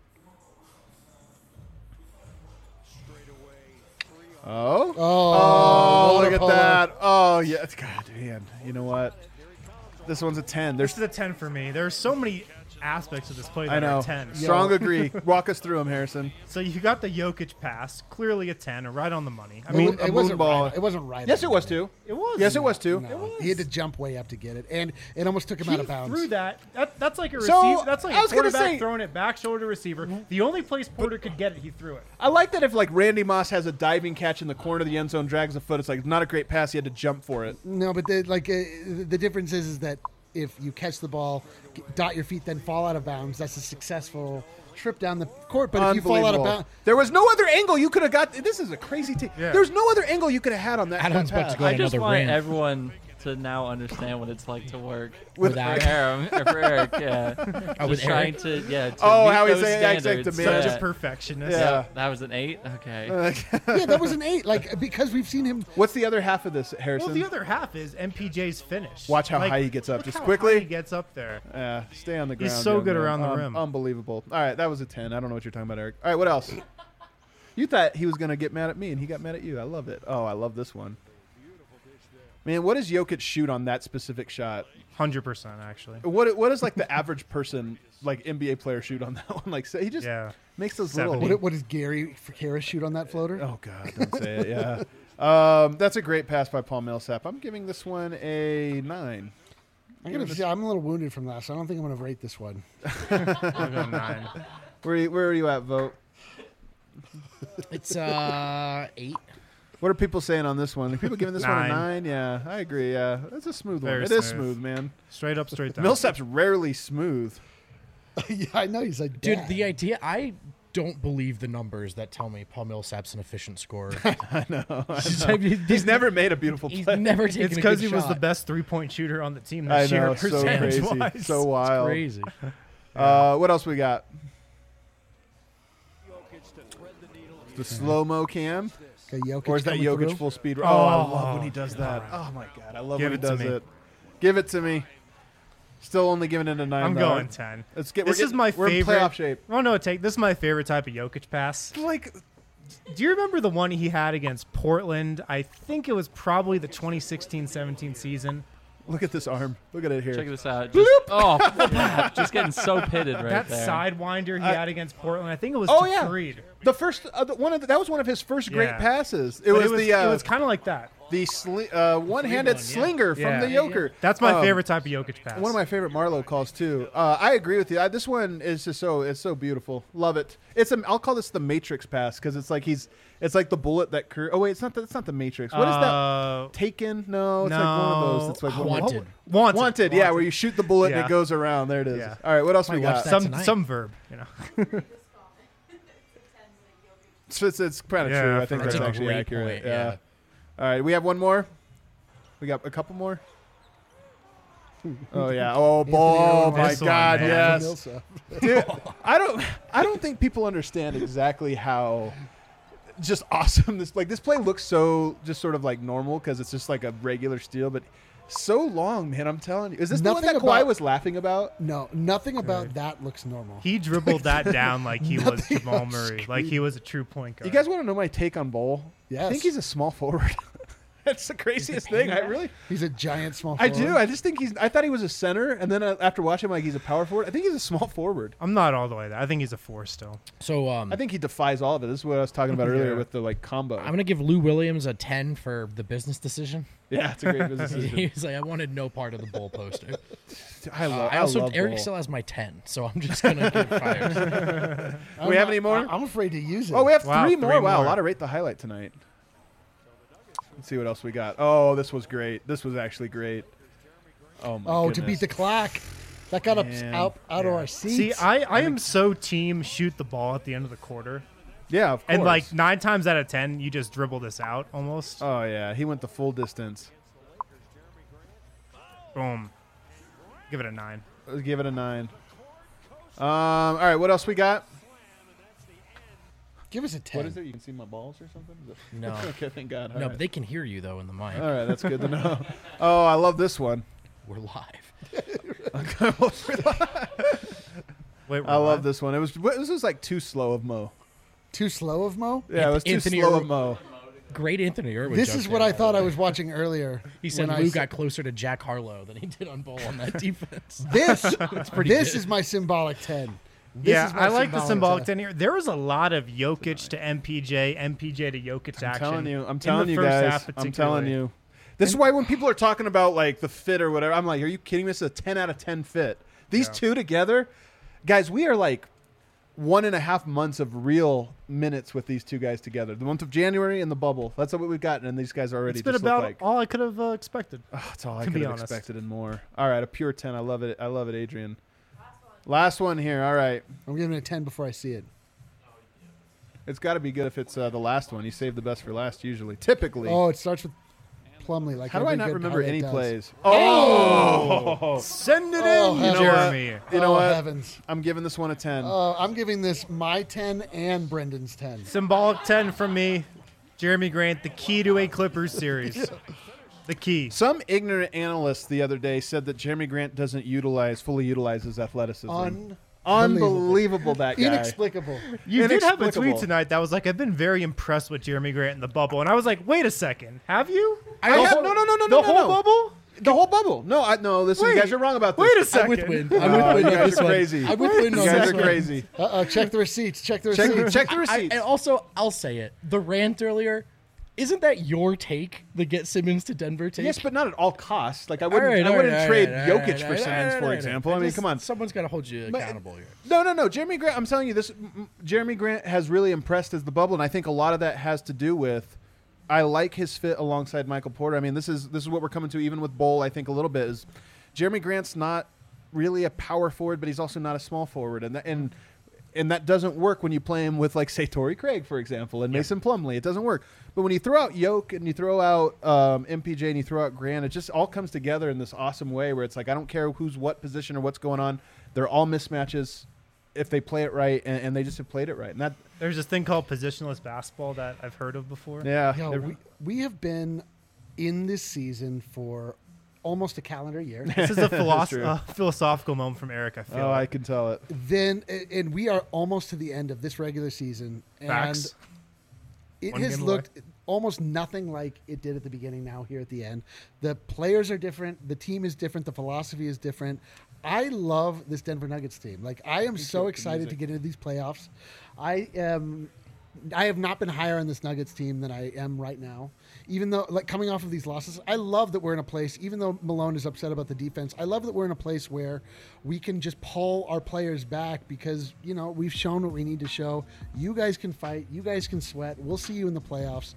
Oh, look at that. Oh, yeah. God, man. You know what? This one's a 10. This is a 10 for me. There are so many aspects of this play that I know. are 10. Strong agree. Walk us through them, Harrison. So you got the Jokic pass, clearly a 10, right on the money. I It, mean, it wasn't right. It wasn't right. Yes, it was too. it was. Yes, it was too. No, he had to jump way up to get it, and it almost took him out of bounds. Threw that. That's like a So, receiver. That's like I a was gonna quarterback say- throwing it back shoulder receiver. The only place Porter could get it, he threw it. I like that if like Randy Moss has a diving catch in the corner of the end zone, drags a foot. It's like not a great pass. He had to jump for it. No, but the difference is that if you catch the ball, dot your feet, then fall out of bounds, that's a successful trip down the court. But if you fall out of bounds, there was no other angle you could have got. This is a crazy team. Yeah. There's no other angle you could have had on that. Adam's that about to pass. go I just another want rant. everyone to now understand what it's like to work With for Eric. Aaron, or for Eric. Yeah, Oh, with just trying Eric? to to Oh, meet how he's those saying exact standards. demand. Such Yeah. a perfectionist. Yeah. That was an 8. Okay. yeah, that was an 8. Like because we've seen him. What's the other half of this, Harrison? Well, the other half is MPJ's finish. Watch how Like, high he gets up. look Just how quickly. high he gets up there. Stay on the ground. He's so young good man. around the rim. Unbelievable. All right, that was a 10. I don't know what you're talking about, Eric. All right, what else? You thought he was going to get mad at me, and he got mad at you. I love it. Oh, I love this one. Man, what does Jokic shoot on that specific shot? 100% actually. What is like the average person, like NBA player, shoot on that one? Like, so he just makes those 70. little. What does Gary Harris shoot on that floater? Oh God, don't say it. Yeah, that's a great pass by Paul Millsap. I'm giving this one a 9. I'm a little wounded from that, so I don't think I'm going to rate this one. I'll go 9. Where are you at, Vote? It's 8. What are people saying on this one? Are people giving this one a 9. 9? Yeah, I agree. Yeah, that's a smooth one. Very It is smooth. smooth, man. Straight up, straight down. Millsap's rarely smooth. Yeah, I know he's like, Dude, Dad. the idea, I don't believe the numbers that tell me Paul Millsap's an efficient scorer. I know. He's never made a beautiful He's play. never taken It's a because good he was the shot. best 3-point shooter on the team I this know, year. so crazy, percentage-wise. so wild. Crazy. What else we got? The slow-mo cam? Okay, Jokic Or is that coming Jokic through. full speed? Oh, I love when he does that. Oh, my God. I love Give when he it to does me. it. Give it to me. Still only giving it a 9. I'm though. going 10. Let's get. This is my We're in favorite. playoff shape. Oh no, this is my favorite type of Jokic pass. Like, Do you remember the one he had against Portland? I think it was probably the 2016-17 season. look at this arm. Look at it here. Check this out. Just, just getting so pitted right That there. sidewinder he had against Portland, I think it was Oh, to yeah. Faried. The first that was one of his first great Yeah. passes. But it was kind of like that. the one-handed slinger from the Joker. That's my favorite type of Jokic pass. One of my favorite Marlowe calls too. I agree with you. This one is just it's so beautiful. Love it. I'll call this the Matrix pass because it's like it's like the bullet that Oh wait, it's not the Matrix. What is that? Taken? No, it's like one of those. It's like Wanted. Wanted. Yeah, where you shoot the bullet and Yeah. it goes around. There it is. Yeah. All right, what else we Might watch got? that tonight. Some verb, you know. It's kind of Yeah, true. I for think real. that's That's a actually great accurate. point, yeah. All right, we have one more. We got a couple more. Oh yeah. Oh, my This one, God. man. Yes. Millsap. Dude, I don't think people understand exactly how just awesome this play looks so just sort of like normal because it's just like a regular steal, but so long, man. I'm telling you. Is this the one Nothing that Kawhi about- was laughing about? No, nothing about that looks normal. He dribbled that down like he was Nothing Jamal on Murray, screen. like he was a true point guard. You guys want to know my take on Bol? I Yes. think he's a small forward. That's the craziest thing. He's a giant small I forward. do. I just think I thought he was a center, and then after watching him, like he's a power forward. I think he's a small forward. I'm not all the way there. I think he's a 4 still. So I think he defies all of it. This is what I was talking about earlier with the combo. I'm gonna give Lou Williams a 10 for the business decision. Yeah, it's a great business decision. He was like, I wanted no part of the Bull poster. I love Eric Bull. still has my 10, so I'm just gonna get fired. Do we have any more? I'm afraid to use it. Oh, we have three more. Three Wow, more. a lot of rate the highlight tonight. Let's see what else we got. Oh, this was great. This was actually great. Oh my goodness. To beat the clock. That got us Man. out of our seats. See, I am so team shoot the ball at the end of the quarter. Yeah, of course. And like 9 times out of 10, you just dribble this out almost. Oh yeah, he went the full distance. Boom. Give it a 9. Let's give it a 9. All right, what else we got? Give us a 10. What is it? You can see my balls or something? No. Okay, thank God. All No, right. but they can hear you though in the mic. All right, that's good to know. Oh, I love this one. We're live. Wait, I love this one. This was like too slow of Mo. Too slow of Mo? Yeah, it was too Anthony slow Irwin- of Mo. Great Anthony Irwin. This joke is what there. I thought I was watching earlier. He said when Lou I got closer to Jack Harlow than he did on Bull on that defense. This pretty this good. is my symbolic 10. This Yeah, is my I like the symbolic 10. 10 here. There was a lot of Jokic to MPJ, MPJ to Jokic action. I'm telling you in the first guys. half I'm telling particularly. you. This is why when people are talking about like the fit or whatever, I'm like, are you kidding me? This is a 10 out of 10 fit. These two together, guys, we are like 1.5 months of real minutes with these two guys together. The month of January and the bubble. That's what we've gotten, and these guys already It's been just about look like. all I could have expected. Oh, that's all I to could be have honest. expected and more. All right, a pure 10. I love it. I love it, Adrian. Last one here. All right. I'm giving it a 10 before I see it. It's got to be good if it's the last one. You save the best for last usually. Typically. Oh, it starts with Plumlee. Like How do I every not good remember highlight any does. plays? Oh! Send it Oh, in, heavens. Jeremy. You know Oh, what? heavens. I'm giving this one a 10. I'm giving this my 10 and Brendan's 10. Symbolic 10 from me. Jeremy Grant, the key to a Clippers series. The key. Some ignorant analyst the other day said that Jeremy Grant doesn't fully utilize his athleticism. Unbelievable, that guy. Inexplicable. You did have a Inexplicable. tweet tonight that was like, I've been very impressed with Jeremy Grant in the bubble. And I was like, wait a second. Have you? No. The whole bubble? The whole bubble. No, listen, you Wait. guys are wrong about this. Wait a I'm second. with Win. Oh, I'm with Win you on guys this are one. crazy. I'm with Win You on guys this are one. crazy. Check the receipts. Check the receipts. Check the receipts. And also, I'll say it. The rant earlier, isn't that your take, the get Simmons to Denver take? Yes, but not at all costs. Like I All wouldn't, right, I all wouldn't right, trade all right, Jokic all right, for all right, Simmons, all for right, example. I mean, just- come on. Someone's got to hold you accountable here. No. Jeremy Grant, I'm telling you, Jeremy Grant has really impressed as the bubble, and I think a lot of that has to do with I like his fit alongside Michael Porter. I mean, this is what we're coming to even with Bull, I think a little bit is Jeremy Grant's not really a power forward, but he's also not a small forward, and that doesn't work when you play him with, like, say, Torrey Craig, for example, and Mason Plumlee. It doesn't work. But when you throw out Yoke and you throw out MPJ and you throw out Grant, it just all comes together in this awesome way where it's like I don't care who's what position or what's going on. They're all mismatches if they play it right, and they just have played it right. And that, There's this thing called positionless basketball that I've heard of before. yeah. Yo, we have been in this season for almost a calendar year. This is a true. philosophical moment from Eric, I feel I like. can tell it. And we are almost to the end of this regular season. Facts. And it One has game looked almost nothing like it did at the beginning now here at the end. The players are different. The team is different. The philosophy is different. I love this Denver Nuggets team. Like, I am so excited to get into these playoffs. I have not been higher on this Nuggets team than I am right now. Even though, like, coming off of these losses, I love that we're in a place, even though Malone is upset about the defense, I love that we're in a place where we can just pull our players back because, you know, we've shown what we need to show. You guys can fight. You guys can sweat. We'll see you in the playoffs.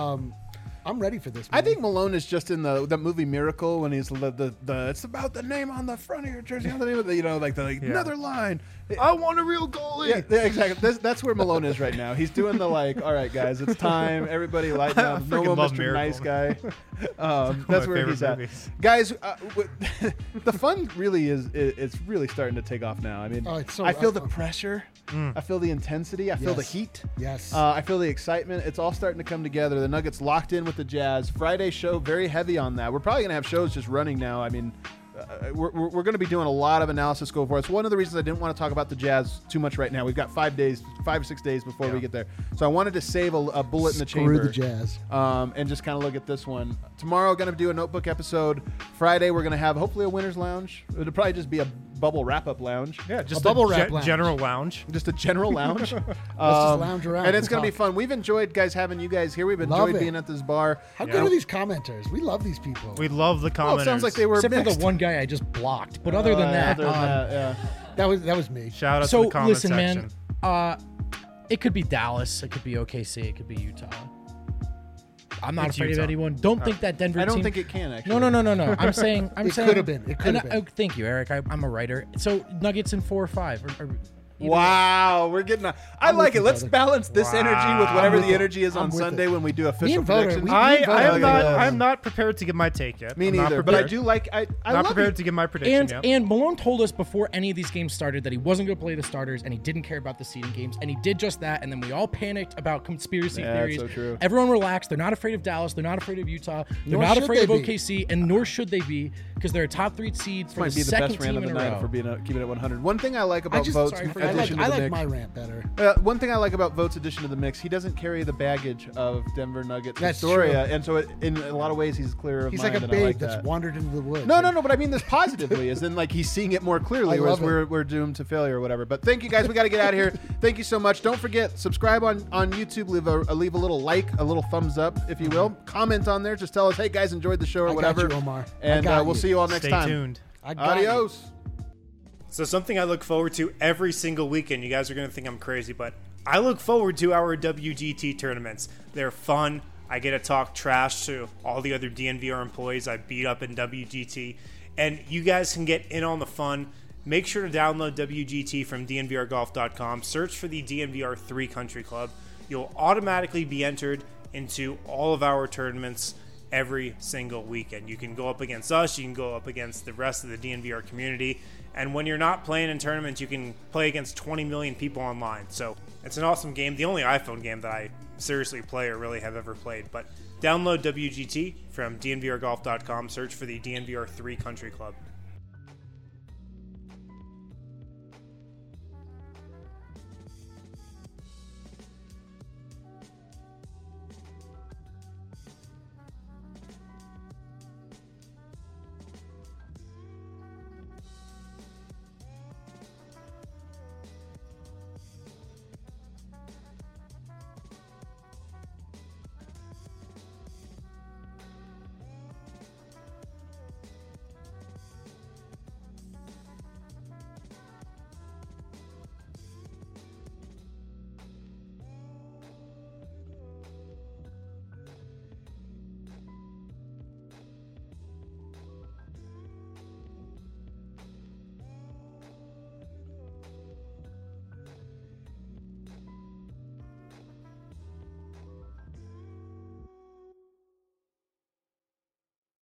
I'm ready for this, man. I think Malone is just in that movie Miracle when he's the it's about the name on the front of your jersey, on the name of the, another line. I want a real goalie. Yeah, exactly. That's where Malone is right now. He's doing the like, all right, guys, it's time. Everybody lighten up. No freaking more love Mr. Miracle. Nice Guy. That's my where favorite he's at. movies. Guys, the fun really is it's really starting to take off now. I mean, Oh, it's so I feel the fun. pressure. I feel the intensity. I feel the Yes. heat. Yes. I feel the excitement. It's all starting to come together. The Nuggets locked in with the Jazz. Friday show, very heavy on that. We're probably going to have shows just running now. I mean, we're going to be doing a lot of analysis going forward. It's one of the reasons I didn't want to talk about the Jazz too much right now. We've got 5 or 6 days before we get there. So I wanted to save a bullet in the chamber. Screw the Jazz. And just kind of look at this one. Tomorrow, going to do a notebook episode. Friday, we're going to have hopefully a winner's lounge. It'll probably just be a bubble wrap-up lounge. Yeah, just a bubble wrap lounge. General lounge. Just a general lounge. Let's just lounge around. And it's going to be fun. We've enjoyed having you guys here. We've enjoyed being at this bar. How good are these commenters? We love these people. We love the commenters. Well, it sounds like they were Except mixed. for the one guy I just blocked. But other than that, that was me. Shout out to the comment listen, section. man. It could be Dallas. It could be OKC. It could be Utah. I'm not afraid of anyone. Don't think that Denver. I don't team, think it can actually. No. I'm saying. It could have been. It could have been. Thank you, Eric. I'm a writer. So Nuggets in 4 or 5. Or Wow, we're getting. I like it. Let's balance this energy with whatever the energy is on Sunday when we do official predictions. I'm not prepared to give my take yet. Me neither. But I do like. I'm not prepared to give my prediction yet. And Malone told us before any of these games started that he wasn't going to play the starters and he didn't care about the seeding games, and he did just that. And then we all panicked about conspiracy theories. That's so true. Everyone relaxed. They're not afraid of Dallas. They're not afraid of Utah. They're not afraid of OKC, and nor should they be, because they're a top 3 seed for the second team in a row. For keeping it 100. One thing I like about Votes addition to the mix. My rant better. One thing I like about Votes addition to the mix, he doesn't carry the baggage of Denver Nuggets That's Astoria, true. and so in a lot of ways he's clearer of He's mind. like a babe that's wandered into the woods. No, but I mean this positively, as in like he's seeing it more clearly, whereas we're doomed to failure or whatever. But thank you guys, we got to get out of here. Thank you so much. Don't forget, subscribe on YouTube, leave a little like, a little thumbs up, if you will. Comment on there, just tell us, hey guys, enjoyed the show or whatever. Got you, Omar. And we'll see you all next time. Stay tuned. Adios. So something I look forward to every single weekend. You guys are going to think I'm crazy, but I look forward to our WGT tournaments. They're fun. I get to talk trash to all the other DNVR employees I beat up in WGT. And you guys can get in on the fun. Make sure to download WGT from DNVRgolf.com. Search for the DNVR 3 Country Club. You'll automatically be entered into all of our tournaments every single weekend. You can go up against us. You can go up against the rest of the DNVR community. And when you're not playing in tournaments, you can play against 20 million people online. So it's an awesome game. The only iPhone game that I seriously play or really have ever played. But download WGT from DNVRgolf.com. Search for the DNVR 3 Country Club.